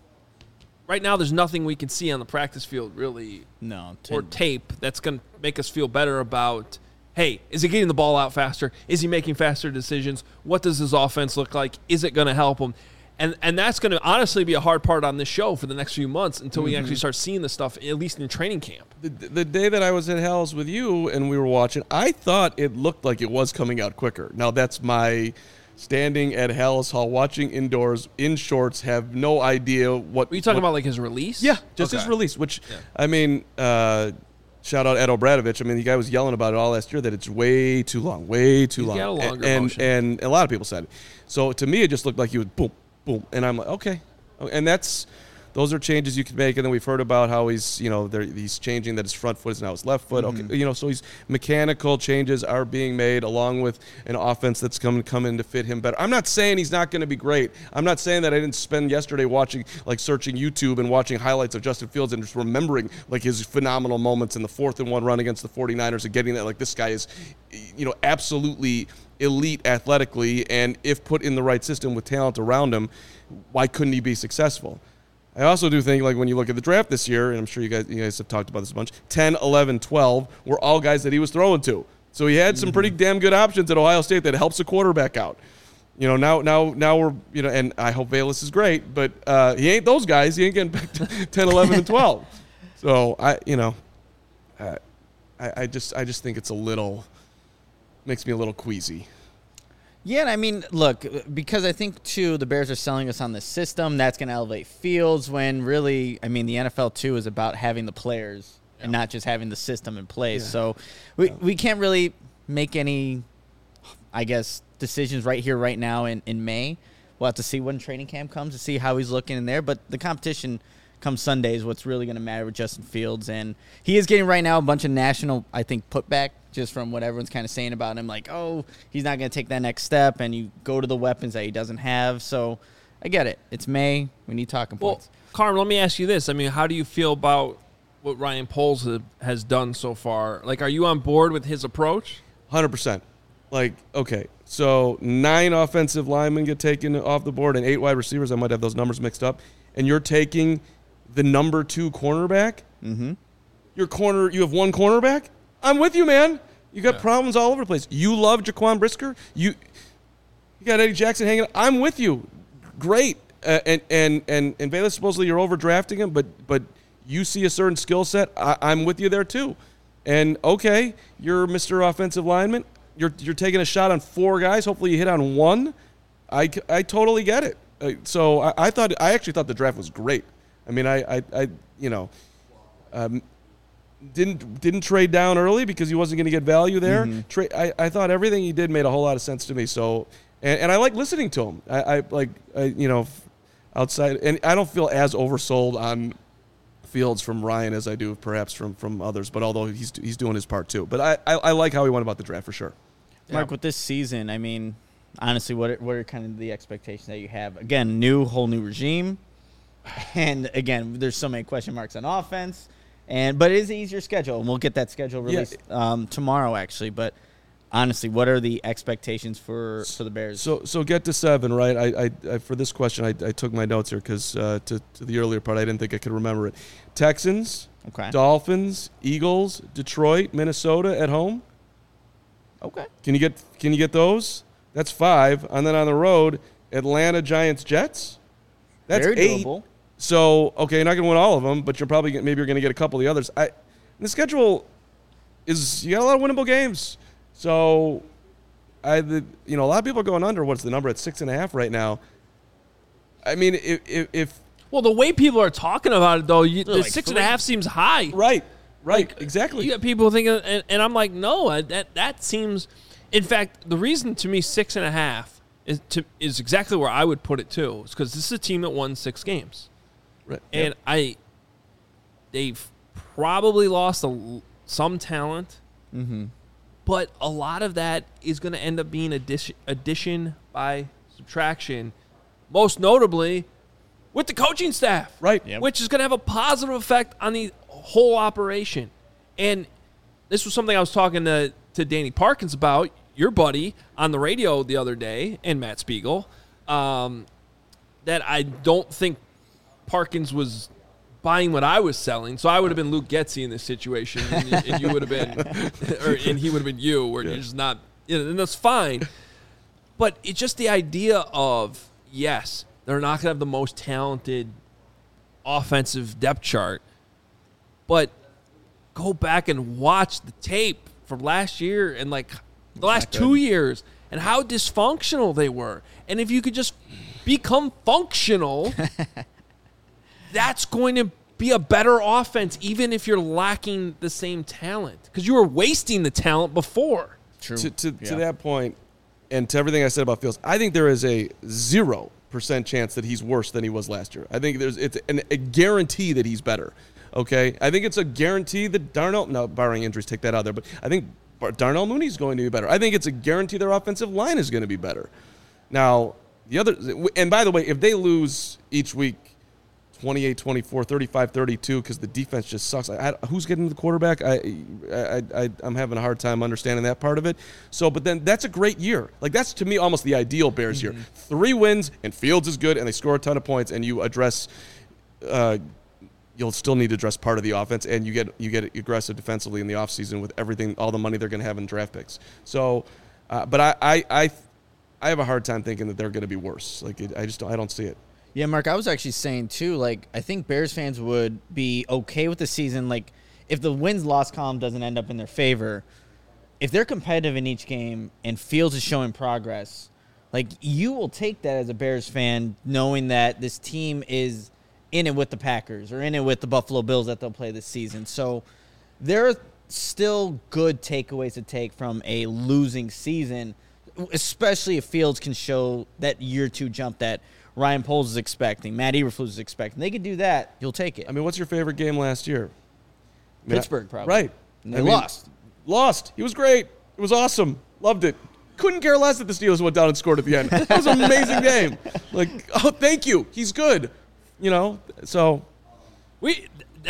Speaker 1: right now there's nothing we can see on the practice field really
Speaker 3: No.
Speaker 1: or
Speaker 3: ten-
Speaker 1: tape that's going to make us feel better about. Hey, is he getting the ball out faster? Is he making faster decisions? What does his offense look like? Is it going to help him? And and that's going to honestly be a hard part on this show for the next few months until we actually start seeing this stuff, at least in training camp.
Speaker 2: The, the day that I was at Hell's with you and we were watching, I thought it looked like it was coming out quicker. Now, that's my standing at Hell's Hall, watching indoors, in shorts, have no idea what...
Speaker 1: Were you talking
Speaker 2: what,
Speaker 1: about like his release?
Speaker 2: Yeah, just
Speaker 1: Okay.
Speaker 2: his release, which,
Speaker 1: Yeah.
Speaker 2: I mean... Uh, Shout out Ed Obradovich. I mean, the guy was yelling about it all last year that it's way too long, way too
Speaker 1: He's
Speaker 2: long.
Speaker 1: got a longer
Speaker 2: and,
Speaker 1: motion.
Speaker 2: and and a lot of people said it. So to me, it just looked like he was boom, boom, and I'm like, okay, and that's those are changes you can make. And then we've heard about how he's, you know, he's changing that his front foot is now his left foot.
Speaker 3: Mm-hmm.
Speaker 2: Okay, you know, so he's mechanical changes are being made along with an offense that's coming come in to fit him better. I'm not saying he's not going to be great. I'm not saying that I didn't spend yesterday watching, like searching YouTube and watching highlights of Justin Fields and just remembering like his phenomenal moments in the fourth and one run against the 49ers and getting that like this guy is, you know, absolutely elite athletically, and if put in the right system with talent around him, why couldn't he be successful? I also do think, like, when you look at the draft this year, and I'm sure you guys you guys have talked about this a bunch, ten, eleven, twelve were all guys that he was throwing to. So he had some pretty damn good options at Ohio State that helps a quarterback out. You know, now now now we're, you know, and I hope Bayless is great, but uh, he ain't those guys. He ain't getting back to ten, eleven, and twelve. So, I, you know, uh, I, I just I just think it's a little, makes me a little queasy.
Speaker 3: Yeah, and I mean, look, because I think, too, the Bears are selling us on the system. That's going to elevate Fields when really, I mean, the N F L, too, is about having the players and not just having the system in place.
Speaker 2: Yeah.
Speaker 3: So we,
Speaker 2: Yeah.
Speaker 3: we can't really make any, I guess, decisions right here, right now in, in May. We'll have to see when training camp comes to see how he's looking in there. But the competition come Sunday is what's really going to matter with Justin Fields. And he is getting right now a bunch of national, I think, putback just from what everyone's kind of saying about him. Like, oh, he's not going to take that next step. And you go to the weapons that he doesn't have. So I get it. It's May. We need talking
Speaker 1: Well,
Speaker 3: points.
Speaker 1: Carm, let me ask you this. I mean, how do you feel about what Ryan Poles ha- has done so far. Like, are you on board with his approach?
Speaker 2: one hundred percent. Like, okay, so nine offensive linemen get taken off the board and eight wide receivers. I might have those numbers mixed up. And you're taking the number two cornerback?
Speaker 3: Mm-hmm.
Speaker 2: Your corner, you have one cornerback? I'm with you, man. You got
Speaker 1: Yeah.
Speaker 2: problems all over the place. You love Jaquan Brisker. You you got Eddie Jackson hanging. I'm with you. Great. Uh, and and and and Bayless, supposedly you're overdrafting him, but but you see a certain skill set. I, I'm with you there too. And okay, you're Mister Offensive Lineman. You're you're taking a shot on four guys. Hopefully you hit on one. I, I totally get it. Uh, so I, I thought I actually thought the draft was great. I mean I I, I you know. Um, Didn't didn't trade down early because he wasn't going to get value there.
Speaker 3: Mm-hmm.
Speaker 2: Tra- I, I thought everything he did made a whole lot of sense to me. So and, and I like listening to him. I, I like I, you know outside and I don't feel as oversold on Fields from Ryan as I do perhaps from, from others. But although he's he's doing his part too. But I, I, I like how he went about the draft for sure.
Speaker 3: Mark,
Speaker 1: Yeah.
Speaker 3: with this season, I mean, honestly, what are, what are kind of the expectations that you have? Again, new whole new regime, and again, there's so many question marks on offense. And but it is an easier schedule, and we'll get that schedule released
Speaker 2: Yeah.
Speaker 3: um, tomorrow, actually. But honestly, what are the expectations for, for the Bears?
Speaker 2: So so get to seven, right? I, I, I for this question I, I took my notes here because uh, to to the earlier part I didn't think I could remember it. Texans,
Speaker 3: okay.
Speaker 2: Dolphins, Eagles, Detroit, Minnesota at home.
Speaker 3: Okay.
Speaker 2: Can you get can you get those? That's five. And then on the road, Atlanta, Giants, Jets. That's
Speaker 3: Very
Speaker 2: eight.
Speaker 3: doable.
Speaker 2: So okay, you're not going to win all of them, but you're probably maybe you're going to get a couple of the others. I the schedule is you got a lot of winnable games. So I the you know a lot of people are going under. What's the number at six and a half right now? I mean, if if, if
Speaker 1: Well, the way people are talking about it, though, you, the
Speaker 3: like
Speaker 1: six and a
Speaker 3: three.
Speaker 1: half seems high.
Speaker 2: right, right,
Speaker 1: Like,
Speaker 2: exactly.
Speaker 1: You got people thinking, and, and I'm like, no, I- that that seems. In fact, the reason to me six and a half is to is exactly where I would put it too. Is because this is a team that won six games,
Speaker 2: Right.
Speaker 1: and
Speaker 2: Yep.
Speaker 1: I they've probably lost a, l- some talent,
Speaker 3: Mm-hmm.
Speaker 1: but a lot of that is going to end up being addition, addition by subtraction. Most notably, with the coaching staff,
Speaker 2: Right.
Speaker 3: Yep.
Speaker 1: which is going to have a positive effect on the whole operation. And this was something I was talking to, to Danny Parkins about, your buddy, on the radio the other day, and Matt Spiegel, um, that I don't think Parkins was buying what I was selling. So I would have been Luke Getsy in this situation, and, you- and you would have been, or, and he would have been you, where you're just not, you know, and that's fine. But it's just the idea of, yes, they're not going to have the most talented offensive depth chart, but go back and watch the tape from last year and like the last
Speaker 3: not
Speaker 1: two
Speaker 3: good.
Speaker 1: years and how dysfunctional they were. And if you could just become functional, that's going to be a better offense, even if you're lacking the same talent, because you were wasting the talent before.
Speaker 3: True.
Speaker 2: to to,
Speaker 3: Yeah.
Speaker 2: to that point, and to everything I said about Fields, I think there is a zero percent chance that he's worse than he was last year. I think there's it's an, a guarantee that he's better. Okay, I think it's a guarantee that Darnell, no, barring injuries, take that out there, but I think Bar- Darnell Mooney's going to be better. I think it's a guarantee their offensive line is going to be better. Now, the other, and by the way, if they lose each week twenty-eight twenty-four, thirty-five thirty-two, because the defense just sucks. I, I, who's getting the quarterback? I, I, I, I'm having a hard time understanding that part of it. So, but then that's a great year. Like, that's, to me, almost the ideal Bears year. Three wins, and Fields is good, and they score a ton of points, and you address uh, you'll still need to address part of the offense, and you get you get aggressive defensively in the offseason with everything, all the money they're going to have in draft picks. So, uh, but I, I, I, I have a hard time thinking that they're going to be worse. Like, it, I just don't, I don't see it.
Speaker 3: Yeah, Mark, I was actually saying, too, like, I think Bears fans would be okay with the season. Like, if the wins-loss column doesn't end up in their favor, if they're competitive in each game and Fields is showing progress, like, you will take that as a Bears fan, knowing that this team is in it with the Packers or in it with the Buffalo Bills that they'll play this season. So there are still good takeaways to take from a losing season, especially if Fields can show that year two jump that Ryan Poles is expecting, Matt Eberflus is expecting. They could do that. You'll take it.
Speaker 2: I mean, what's your favorite game last year? I mean,
Speaker 3: Pittsburgh, probably.
Speaker 2: Right.
Speaker 3: And they
Speaker 2: I mean,
Speaker 3: lost.
Speaker 2: Lost. He was great. It was awesome. Loved it. Couldn't care less that the Steelers went down and scored at the end. It was an amazing game. Like, oh, thank you. He's good. You know, so
Speaker 1: We that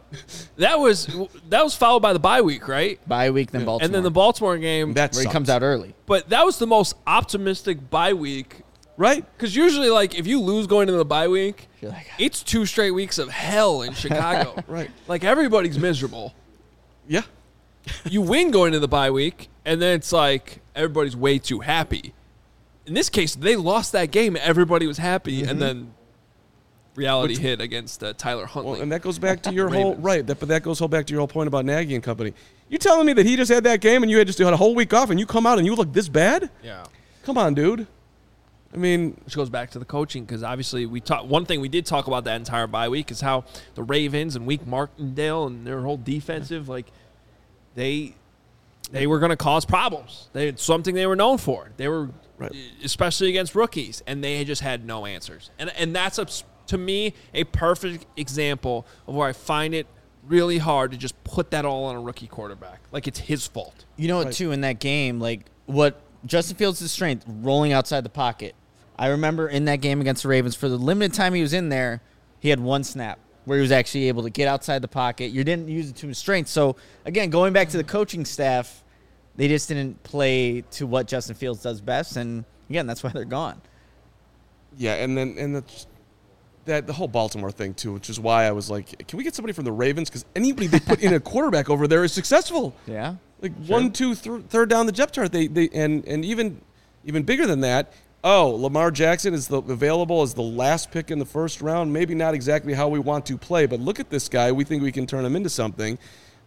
Speaker 1: that was that was followed by the bye week, right?
Speaker 3: Bye week, then Baltimore.
Speaker 1: And then the Baltimore game.
Speaker 2: That
Speaker 3: where he
Speaker 2: sucks.
Speaker 3: comes out early.
Speaker 1: But that was the most optimistic bye week.
Speaker 2: Right?
Speaker 1: Because usually, like, if you lose going into the bye week,
Speaker 3: You're like,
Speaker 1: it's two straight weeks of hell in Chicago.
Speaker 2: Right.
Speaker 1: Like, everybody's miserable.
Speaker 2: Yeah.
Speaker 1: You win going into the bye week, and then it's like everybody's way too happy. In this case, they lost that game. Everybody was happy,
Speaker 2: Mm-hmm.
Speaker 1: and then reality Which, hit against uh, Tyler Huntley.
Speaker 2: Well, and that goes back to your whole right. That, but that goes whole back to your whole point about Nagy and company. You telling me that he just had that game and you had just had a whole week off and you come out and you look this bad?
Speaker 1: Yeah.
Speaker 2: Come on, dude. I mean,
Speaker 1: which goes back to the coaching because obviously we talk. One thing we did talk about that entire bye week is how the Ravens and Wake Martindale and their whole defensive, like they they were going to cause problems. They had something they were known for. They were right. especially against rookies, and they just had no answers. And and that's a, to me a perfect example of where I find it really hard to just put that all on a rookie quarterback, like it's his fault.
Speaker 3: You know what? Right. Too in that game, like what Justin Fields' strength, rolling outside the pocket. I remember in that game against the Ravens, for the limited time he was in there, he had one snap where he was actually able to get outside the pocket. You didn't use it to his strength. So, again, going back to the coaching staff, they just didn't play to what Justin Fields does best. And, again, that's why they're gone.
Speaker 2: Yeah, and then and that's, that the whole Baltimore thing, too, which is why I was like, can we get somebody from the Ravens? Because anybody they put in a quarterback over there is successful.
Speaker 3: Yeah.
Speaker 2: Like sure. one, two, th- third down the depth chart. They, they and, and even even bigger than that, oh, Lamar Jackson is the, available as the last pick in the first round. Maybe not exactly how we want to play, but look at this guy. We think we can turn him into something.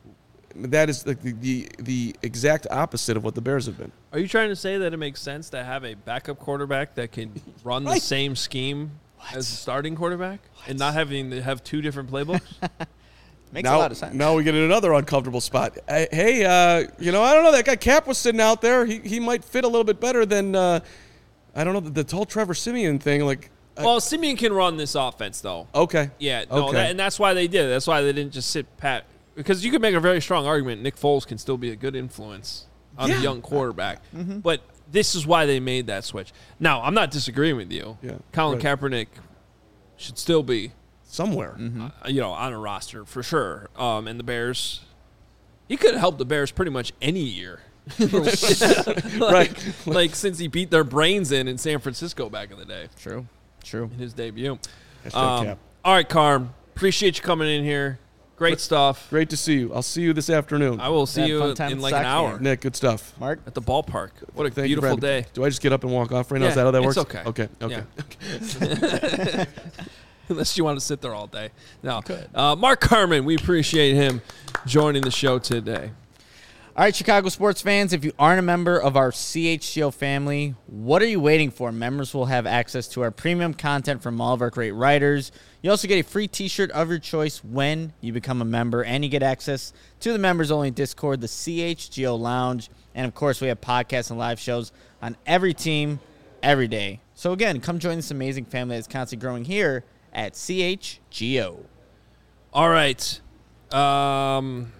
Speaker 2: That is like the, the, the exact opposite of what the Bears have been.
Speaker 1: Are you trying to say that it makes sense to have a backup quarterback that can run right. the same scheme what? as a starting quarterback what? and not having to have two different playbooks?
Speaker 3: Makes
Speaker 2: now,
Speaker 3: a lot of sense.
Speaker 2: Now we get in another uncomfortable spot. I, hey, uh, you know, I don't know. That guy Cap was sitting out there. He he might fit a little bit better than, uh, I don't know, the, the whole Trevor Siemian thing. Like,
Speaker 1: Well, uh, Siemian can run this offense, though.
Speaker 2: Okay.
Speaker 1: Yeah, no,
Speaker 2: okay.
Speaker 1: That, and that's why they did it. That's why they didn't just sit pat. Because you could make a very strong argument Nick Foles can still be a good influence on
Speaker 2: yeah.
Speaker 1: a young quarterback.
Speaker 3: Mm-hmm.
Speaker 1: But this is why they made that switch. Now, I'm not disagreeing with you.
Speaker 2: Yeah,
Speaker 1: Colin
Speaker 2: right.
Speaker 1: Kaepernick should still be
Speaker 2: somewhere,
Speaker 3: mm-hmm.
Speaker 1: uh, you know, on a roster for sure. Um, and the Bears, he could have helped the Bears pretty much any year. like,
Speaker 2: right.
Speaker 1: Like since he beat their brains in in San Francisco back in the day.
Speaker 3: True. True.
Speaker 1: In his debut.
Speaker 2: Um,
Speaker 1: Cap. All right, Carm. Appreciate you coming in here. Great stuff.
Speaker 2: Great to see you. I'll see you this afternoon.
Speaker 1: I will see you in like an hour.
Speaker 3: Game.
Speaker 2: Nick, good stuff.
Speaker 3: Mark?
Speaker 1: At the ballpark. What a
Speaker 2: Thank
Speaker 1: beautiful
Speaker 2: you,
Speaker 1: day.
Speaker 2: Do I just get up and walk off right now?
Speaker 1: Yeah,
Speaker 2: Is that how that
Speaker 1: it's
Speaker 2: works?
Speaker 1: okay.
Speaker 2: Okay. Okay.
Speaker 1: Yeah. Unless you want to sit there all day. No.
Speaker 3: Good.
Speaker 1: Uh, Mark Carman, we appreciate him joining the show today.
Speaker 3: All right, Chicago sports fans, if you aren't a member of our C H G O family, what are you waiting for? Members will have access to our premium content from all of our great writers. You also get a free t-shirt of your choice when you become a member, and you get access to the members-only Discord, the C H G O Lounge, and, of course, we have podcasts and live shows on every team, every day. So, again, come join this amazing family that's constantly growing here at C H G O.
Speaker 1: All right. Um...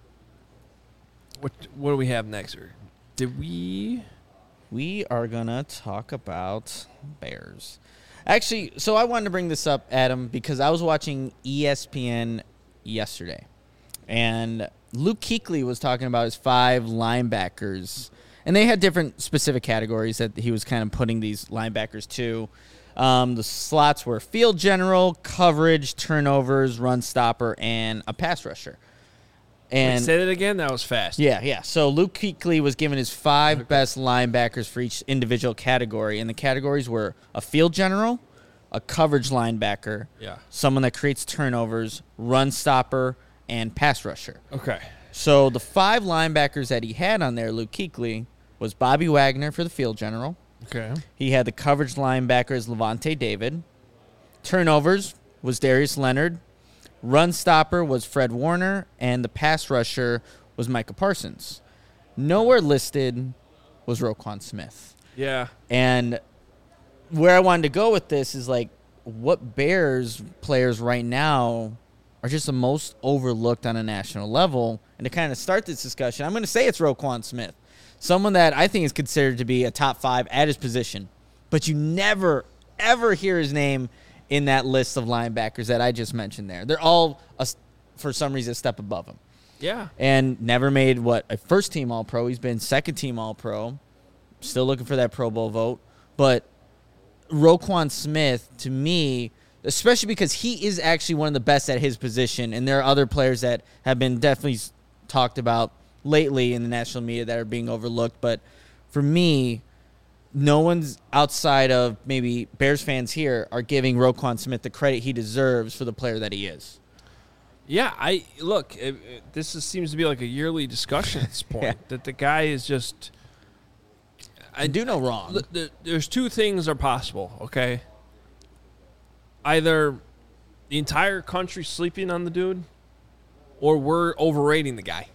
Speaker 1: What what do we have next? Or did we?
Speaker 3: We are going to talk about Bears. Actually, so I wanted to bring this up, Adam, because I was watching E S P N yesterday. And Luke Kuechly was talking about his five linebackers. And they had different specific categories that he was kind of putting these linebackers to. Um, the slots were field general, coverage, turnovers, run stopper, and a pass rusher. And
Speaker 1: Wait, say that again? That was fast.
Speaker 3: Yeah, yeah. So Luke Kuechly was given his five okay. best linebackers for each individual category, and the categories were a field general, a coverage linebacker,
Speaker 1: yeah,
Speaker 3: someone that creates turnovers, run stopper, and pass rusher.
Speaker 1: Okay.
Speaker 3: So the five linebackers that he had on there, Luke Kuechly, was Bobby Wagner for the field general.
Speaker 1: Okay.
Speaker 3: He had the coverage linebackers, Levante David. Turnovers was Darius Leonard. Run stopper was Fred Warner, and the pass rusher was Micah Parsons. Nowhere listed was Roquan Smith.
Speaker 1: Yeah.
Speaker 3: And where I wanted to go with this is, like, what Bears players right now are just the most overlooked on a national level? And to kind of start this discussion, I'm going to say it's Roquan Smith, someone that I think is considered to be a top five at his position. But you never, ever hear his name in that list of linebackers that I just mentioned there. They're all a for some reason, a step above him.
Speaker 1: Yeah.
Speaker 3: And never made, what, a first-team All-Pro. He's been second-team All-Pro. Still looking for that Pro Bowl vote. But Roquan Smith, to me, especially because he is actually one of the best at his position, and there are other players that have been definitely talked about lately in the national media that are being overlooked. But for me, no one's outside of maybe Bears fans here are giving Roquan Smith the credit he deserves for the player that he is.
Speaker 1: Yeah, I look. It, it, this is, seems to be like a yearly discussion at this point.
Speaker 3: Yeah.
Speaker 1: That the guy is just.
Speaker 3: I do no wrong.
Speaker 1: I, the, there's two things are possible. Okay. Either the entire country sleeping on the dude, or we're overrating the guy.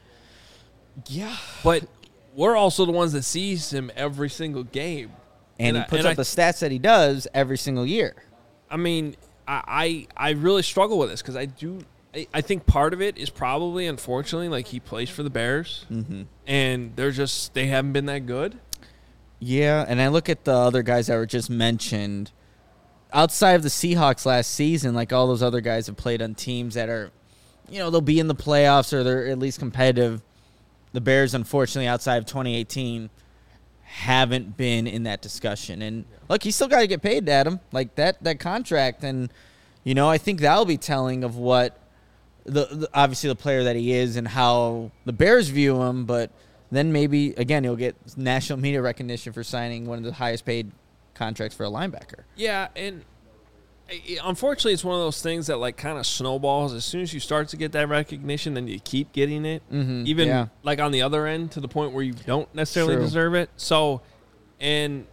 Speaker 3: Yeah,
Speaker 1: but we're also the ones that sees him every single game,
Speaker 3: and,
Speaker 1: and
Speaker 3: he
Speaker 1: I,
Speaker 3: puts
Speaker 1: and
Speaker 3: up
Speaker 1: I,
Speaker 3: the stats that he does every single year.
Speaker 1: I mean, I I, I really struggle with this because I do. I, I think part of it is probably, unfortunately, like he plays for the Bears,
Speaker 3: Mm-hmm.
Speaker 1: and they're just they haven't been that good.
Speaker 3: Yeah, and I look at the other guys that were just mentioned. Outside of the Seahawks last season, like all those other guys have played on teams that are, you know, they'll be in the playoffs or they're at least competitive. The Bears, unfortunately, outside of twenty eighteen, haven't been in that discussion. And look, he's still got to get paid, Adam. Like that that contract, and you know, I think that'll be telling of what the, the obviously the player that he is and how the Bears view him. But then maybe again he'll get national media recognition for signing one of the highest paid contracts for a linebacker.
Speaker 1: Yeah, and it, unfortunately, it's one of those things that like kind of snowballs. As soon as you start to get that recognition, then you keep getting it,
Speaker 3: Mm-hmm.
Speaker 1: even
Speaker 3: yeah.
Speaker 1: like on the other end to the point where you don't necessarily
Speaker 3: True.
Speaker 1: deserve it. So, and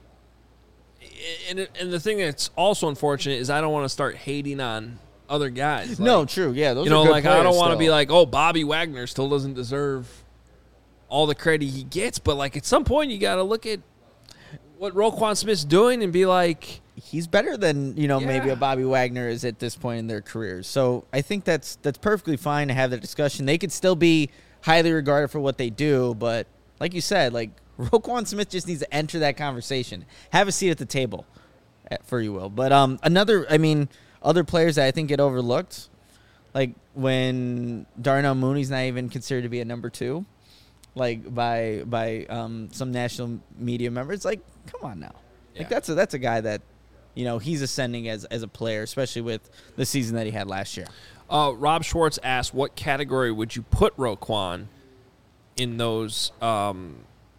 Speaker 1: and and the thing that's also unfortunate is I don't want to start hating on other guys.
Speaker 3: no,
Speaker 1: Like,
Speaker 3: true. Yeah, those
Speaker 1: you know,
Speaker 3: are good
Speaker 1: like I don't
Speaker 3: players
Speaker 1: want to be
Speaker 3: still.
Speaker 1: like, oh, Bobby Wagner still doesn't deserve all the credit he gets, but like at some point you got to look at what Roquan Smith's doing and be like,
Speaker 3: he's better than, you know, maybe
Speaker 1: Yeah.
Speaker 3: a Bobby Wagner is at this point in their careers. So I think that's that's perfectly fine to have the discussion. They could still be highly regarded for what they do, but like you said, like Roquan Smith just needs to enter that conversation, have a seat at the table, for you will. But um, another, I mean, other players that I think get overlooked, like when Darnell Mooney's not even considered to be a number two, like by by um, some national media members. Like, come on now,
Speaker 1: Yeah.
Speaker 3: like that's a that's a guy that, you know, he's ascending as as a player, especially with the season that he had last year.
Speaker 1: Uh, Rob Schwartz asked, what category would you put Roquan in those? Um,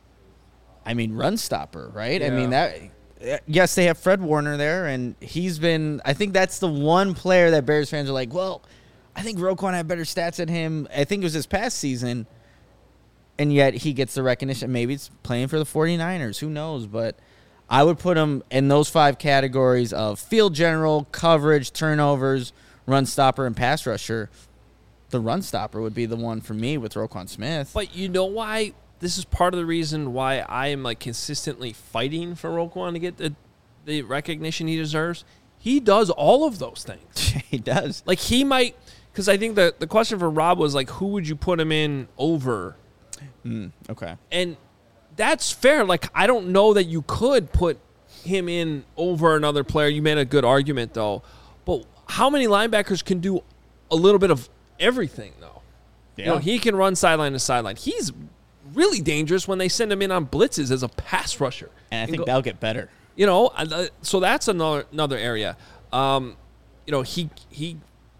Speaker 3: I mean, run stopper, right? I
Speaker 1: Yeah.
Speaker 3: mean that. Yes, they have Fred Warner there, and he's been. I think that's the one player that Bears fans are like, well, I think Roquan had better stats than him. I think it was this past season, and yet he gets the recognition. Maybe it's playing for the 49ers. Who knows? But I would put him in those five categories of field general, coverage, turnovers, run stopper, and pass rusher. The run stopper would be the one for me with Roquan Smith.
Speaker 1: but you know why? This is part of the reason why I am like consistently fighting for Roquan to get the the recognition he deserves. He does all of those things.
Speaker 3: he does.
Speaker 1: Like he might, because I think the the question for Rob was like, who would you put him in over?
Speaker 3: Mm, okay.
Speaker 1: And that's fair. Like I don't know that you could put him in over another player. You made a good argument though. But how many linebackers can do a little bit of everything though? You know, he can run sideline to sideline. He's really dangerous when they send him in on blitzes as a pass rusher.
Speaker 3: And I
Speaker 1: And
Speaker 3: think
Speaker 1: go-
Speaker 3: that'll get better.
Speaker 1: You know, uh, so that's another another area. Um, you know, he he.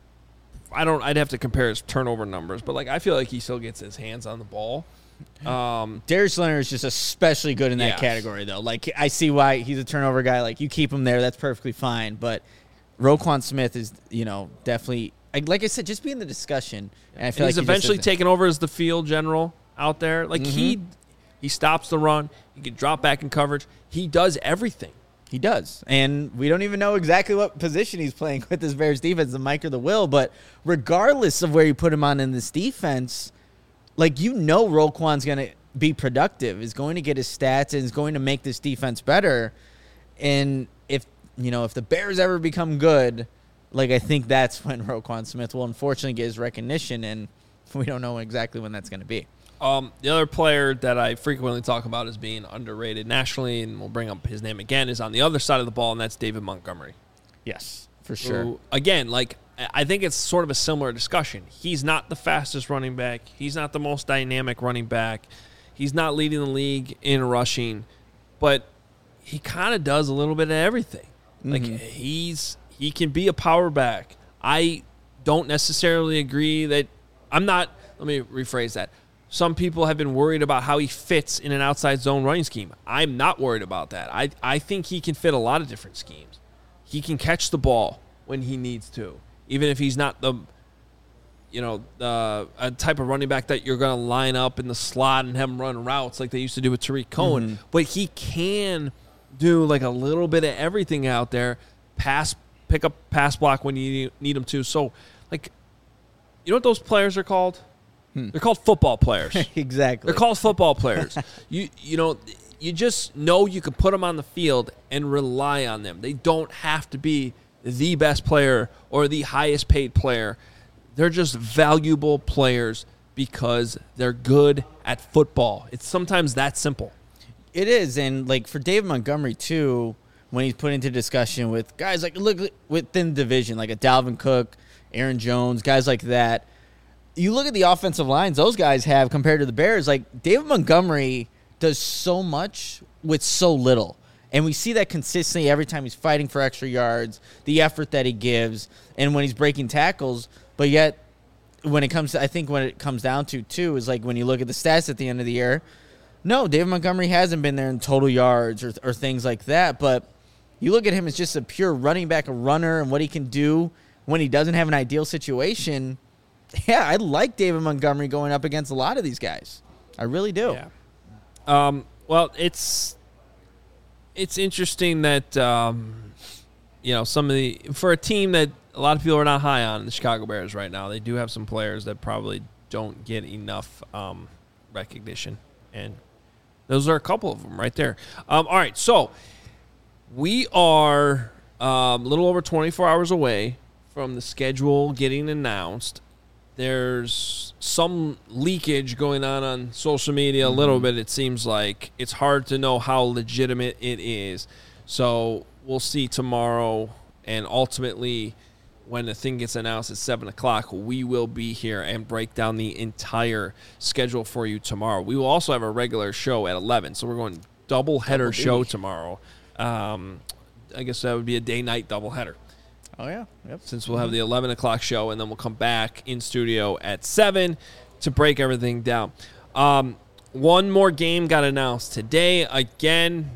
Speaker 1: I don't. I'd have to compare his turnover numbers, but like I feel like he still gets his hands on the ball. Um,
Speaker 3: Darius Leonard is just especially good in that
Speaker 1: Yes.
Speaker 3: category, though. Like, I see why he's a turnover guy. Like, you keep him there, that's perfectly fine. But Roquan Smith is, you know, definitely, like, like I said, just be in the discussion. And I
Speaker 1: and
Speaker 3: feel
Speaker 1: he's
Speaker 3: like he just
Speaker 1: eventually
Speaker 3: isn't.
Speaker 1: taken over as the field general out there. Like he he stops the run. He can drop back in coverage. He does everything.
Speaker 3: He does. And we don't even know exactly what position he's playing with this Bears defense, the Mike or the Will. But regardless of where you put him on in this defense, like, you know Roquan's going to be productive, is going to get his stats, and is going to make this defense better. And if, you know, if the Bears ever become good, like, I think that's when Roquan Smith will unfortunately get his recognition, and we don't know exactly when that's going to be.
Speaker 1: Um, the other player that I frequently talk about as being underrated nationally, and we'll bring up his name again, is on the other side of the ball, and that's David Montgomery.
Speaker 3: Yes, for sure.
Speaker 1: Who, again, like I think it's sort of a similar discussion. He's not the fastest running back. He's not the most dynamic running back. He's not leading the league in rushing, but he kind of does a little bit of everything. Mm-hmm. Like he's he can be a power back. I don't necessarily agree that I'm not. Let me rephrase that. Some people have been worried about how he fits in an outside zone running scheme. I'm not worried about that. I I think he can fit a lot of different schemes. He can catch the ball when he needs to. Even if he's not the, you know, the a type of running back that you're going to line up in the slot and have him run routes like they used to do with Tariq Cohen. Mm-hmm. But he can do like a little bit of everything out there, pass, pick up pass block when you need him to. So, like, you know what those players are called? Hmm. They're called football players.
Speaker 3: Exactly.
Speaker 1: They're called football players. you you know, you just know you can put them on the field and rely on them. They don't have to be the best player or the highest paid player. They're just valuable players because they're good at football. It's sometimes that simple.
Speaker 3: It is, and like for David Montgomery too, when he's put into discussion with guys like look within the division, like a Dalvin Cook, Aaron Jones, guys like that. You look at the offensive lines those guys have compared to the Bears. Like David Montgomery does so much with so little. And we see that consistently every time he's fighting for extra yards, the effort that he gives, and when he's breaking tackles. But yet, when it comes to, I think when it comes down to, too, is like when you look at the stats at the end of the year, no, David Montgomery hasn't been there in total yards or, or things like that. But you look at him as just a pure running back, a runner, and what he can do when he doesn't have an ideal situation. Yeah, I like David Montgomery going up against a lot of these guys. I really do.
Speaker 1: Yeah. Um, well, it's... It's interesting that, um, you know, some of the – for a team that a lot of people are not high on, the Chicago Bears right now, they do have some players that probably don't get enough um, recognition. And those are a couple of them right there. Um, all right, so we are um, a little over twenty-four hours away from the schedule getting announced. There's some leakage going on on social media a little bit, it seems like. It's hard to know how legitimate it is. So we'll see tomorrow, and ultimately when the thing gets announced at seven o'clock, we will be here and break down the entire schedule for you tomorrow. We will also have a regular show at eleven, so we're going double-header show tomorrow. Um, I guess that would be a day-night doubleheader.
Speaker 3: Oh, yeah. Yep.
Speaker 1: Since we'll have the eleven o'clock show, and then we'll come back in studio at seven to break everything down. Um, one more game got announced today. Again,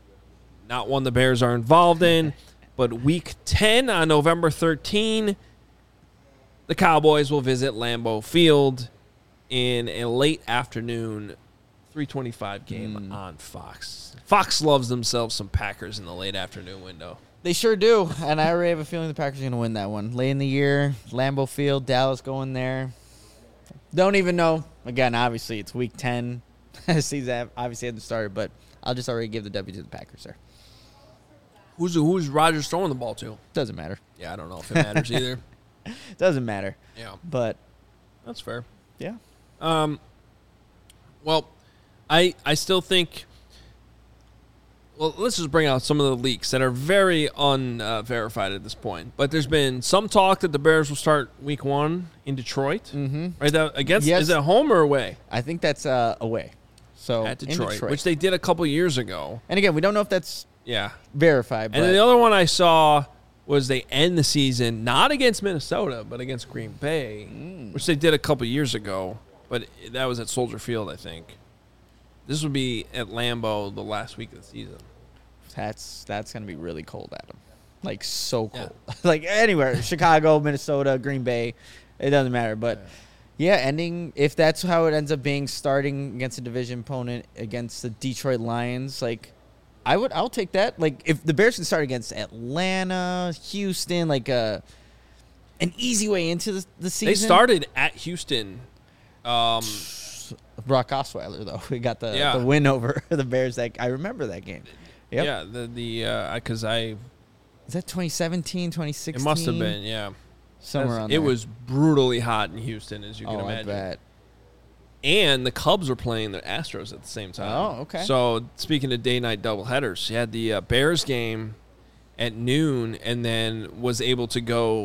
Speaker 1: not one the Bears are involved in, but week ten on November thirteenth, the Cowboys will visit Lambeau Field in a late afternoon three twenty-five game mm. on Fox. Fox loves themselves some Packers in the late afternoon window.
Speaker 3: They sure do, and I already have a feeling the Packers are going to win that one. Late in the year, Lambeau Field, Dallas going there. Don't even know. Again, obviously, it's week ten. Season obviously hasn't started, but I'll just already give the W to the Packers there.
Speaker 1: Who's who's Rodgers throwing the ball to?
Speaker 3: Doesn't matter.
Speaker 1: Yeah, I don't know if it matters either.
Speaker 3: Doesn't matter.
Speaker 1: Yeah.
Speaker 3: But
Speaker 1: that's fair.
Speaker 3: Yeah.
Speaker 1: Um. Well, I I still think... Well, let's just bring out some of the leaks that are very unverified uh, at this point. But there's been some talk that the Bears will start week one in Detroit.
Speaker 3: Mm-hmm.
Speaker 1: Right? That, against,
Speaker 3: yes.
Speaker 1: Is it home or away?
Speaker 3: I think that's uh, away. So
Speaker 1: At Detroit,
Speaker 3: Detroit,
Speaker 1: which they did a couple years ago.
Speaker 3: And again, we don't know if that's
Speaker 1: yeah
Speaker 3: verified. But
Speaker 1: and then the other one I saw was they end the season not against Minnesota, but against Green Bay, mm. which they did a couple years ago. But that was at Soldier Field, I think. This would be at Lambeau the last week of the season.
Speaker 3: That's that's going to be really cold at them. Like, so cold. Yeah. Like, anywhere. Chicago, Minnesota, Green Bay. It doesn't matter. But, yeah. yeah, ending, if that's how it ends up being, starting against a division opponent against the Detroit Lions, like, I would, I'll take that. Like, if the Bears can start against Atlanta, Houston, like a, an easy way into the, the season.
Speaker 1: They started at Houston. Um,
Speaker 3: Brock Osweiler, though. We got the,
Speaker 1: yeah.
Speaker 3: the win over the Bears. That I remember that game. Yep.
Speaker 1: Yeah, the the because uh, I
Speaker 3: is that twenty seventeen, twenty sixteen?
Speaker 1: It must have been, yeah,
Speaker 3: somewhere on
Speaker 1: it
Speaker 3: there.
Speaker 1: was brutally hot in Houston, as you can
Speaker 3: oh,
Speaker 1: imagine.
Speaker 3: I bet.
Speaker 1: And the Cubs were playing the Astros at the same time.
Speaker 3: Oh, okay.
Speaker 1: So speaking of day-night doubleheaders, you had the uh, Bears game at noon, and then was able to go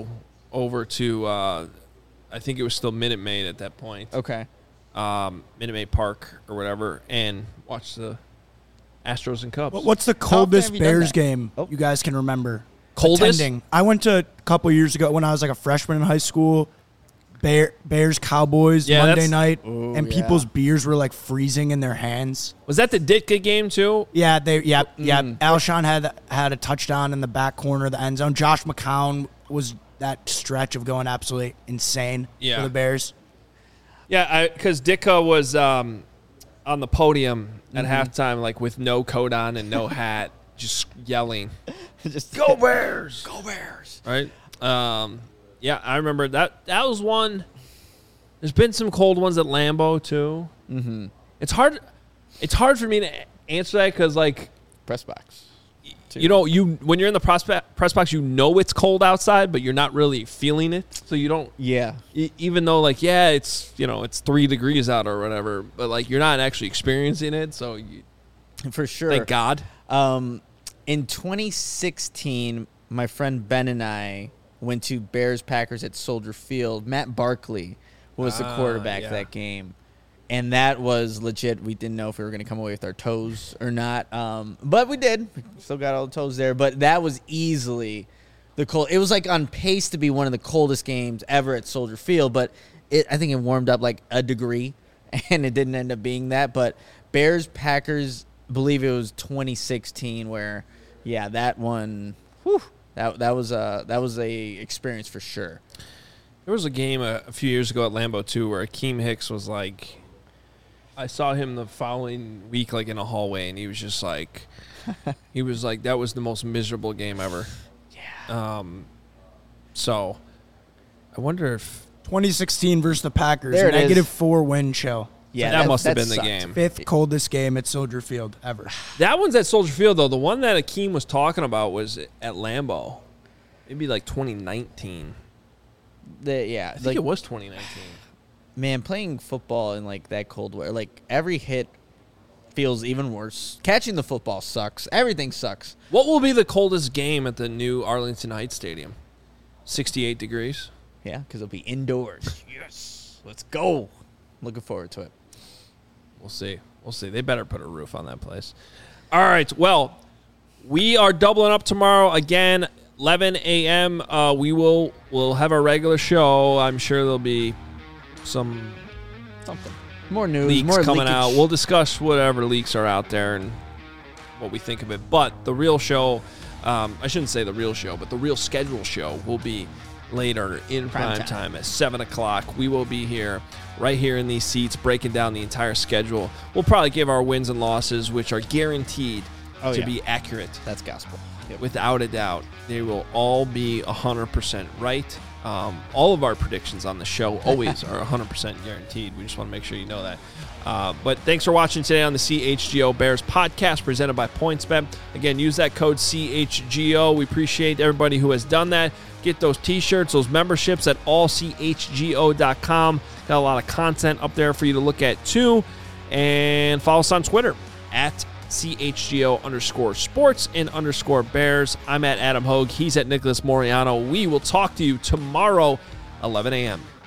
Speaker 1: over to, uh, I think it was still Minute Maid at that point,
Speaker 3: Okay.
Speaker 1: um, Minute Maid Park or whatever, and watched the Astros and Cubs.
Speaker 4: What- What's the
Speaker 3: often
Speaker 4: coldest
Speaker 3: have you done
Speaker 4: Bears
Speaker 3: that?
Speaker 4: game
Speaker 3: Oh.
Speaker 4: you guys can remember?
Speaker 1: Coldest?
Speaker 4: Attending. I went to a couple years ago when I was like a freshman in high school. Bear, Bears Cowboys
Speaker 1: Yeah,
Speaker 4: Monday
Speaker 1: that's-
Speaker 4: night,
Speaker 3: Ooh,
Speaker 4: and
Speaker 3: yeah.
Speaker 4: people's beers were like freezing in their hands.
Speaker 1: Was that the Ditka game too?
Speaker 4: Yeah, they. Yeah, yeah.
Speaker 1: Mm.
Speaker 4: Alshon had had a touchdown in the back corner of the end zone. Josh McCown was that stretch of going absolutely insane
Speaker 1: Yeah.
Speaker 4: for the Bears.
Speaker 1: Yeah, because Ditka was um, on the podium at
Speaker 3: Mm-hmm.
Speaker 1: halftime, like with no coat on and no hat, just yelling,
Speaker 3: Just
Speaker 1: "Go Bears! Go Bears!" Right? Um, yeah, I remember that. That was one. There's been some cold ones at Lambeau too. Mm-hmm. It's hard. It's hard for me to answer that because, like,
Speaker 3: press box.
Speaker 1: you know, you when you're in the prospect, press box, you know it's cold outside, but you're not really feeling it, so you don't.
Speaker 3: Yeah.
Speaker 1: E- even though, like, yeah, it's, you know, it's three degrees out or whatever, but, like, you're not actually experiencing it, so you,
Speaker 3: For sure.
Speaker 1: thank God.
Speaker 3: Um, in twenty sixteen, my friend Ben and I went to Bears Packers at Soldier Field. Matt Barkley was the
Speaker 1: Ah,
Speaker 3: quarterback
Speaker 1: yeah.
Speaker 3: that game. And that was legit. We didn't know if we were going to come away with our toes or not. Um, but we did. We still got all the toes there. But that was easily the cold. It was like on pace to be one of the coldest games ever at Soldier Field. But it, I think it warmed up like a degree, and it didn't end up being that. But Bears, Packers, I believe it was twenty sixteen where, yeah, that one, whew, that, that was a, that was a experience for sure.
Speaker 1: There was a game a, a few years ago at Lambeau, too, where Akeem Hicks was like, I saw him the following week, like, in a hallway, and he was just like, he was like, that was the most miserable game ever. Yeah. Um. So, I wonder if
Speaker 4: twenty sixteen versus the Packers,
Speaker 3: There it is.
Speaker 4: negative four wind chill.
Speaker 3: Yeah,
Speaker 1: that must have been the
Speaker 3: sucked.
Speaker 1: game.
Speaker 4: Fifth coldest game at Soldier Field ever.
Speaker 1: that one's at Soldier Field, though. The one that Akeem was talking about was at Lambeau. Maybe like twenty nineteen.
Speaker 3: The, yeah,
Speaker 1: I think
Speaker 3: like,
Speaker 1: it was twenty nineteen.
Speaker 3: man, playing football in like that cold weather, like every hit feels even worse. Catching the football sucks. Everything sucks.
Speaker 1: What will be the coldest game at the new Arlington Heights Stadium? sixty-eight degrees.
Speaker 3: Yeah, because it'll be indoors. Yes, let's go. Looking forward to it.
Speaker 1: We'll see. We'll see. They better put a roof on that place. All right. Well, we are doubling up tomorrow again, eleven a.m. Uh, we will we'll have our regular show. I'm sure there'll be some
Speaker 3: Something. More news.
Speaker 1: leaks
Speaker 3: more
Speaker 1: coming
Speaker 3: leakage.
Speaker 1: out. We'll discuss whatever leaks are out there and what we think of it. But the real show, um, I shouldn't say the real show, but the real schedule show will be later in prime,
Speaker 3: Prime
Speaker 1: time.
Speaker 3: time.
Speaker 1: at seven o'clock. We will be here, right here in these seats, breaking down the entire schedule. We'll probably give our wins and losses, which are guaranteed
Speaker 3: Oh,
Speaker 1: to
Speaker 3: yeah.
Speaker 1: be accurate.
Speaker 3: That's gospel. Yep.
Speaker 1: Without a doubt. They will all be one hundred percent right. Um, all of our predictions on the show always are one hundred percent guaranteed. We just want to make sure you know that. Uh, but thanks for watching today on the C H G O Bears podcast presented by PointsBet. Again, use that code C H G O. We appreciate everybody who has done that. Get those t-shirts, those memberships at all c h g o dot com. Got a lot of content up there for you to look at too. And follow us on Twitter at C H G O underscore sports and underscore bears. I'm at Adam Hogue. He's at Nicholas Moriano. We will talk to you tomorrow, eleven a.m.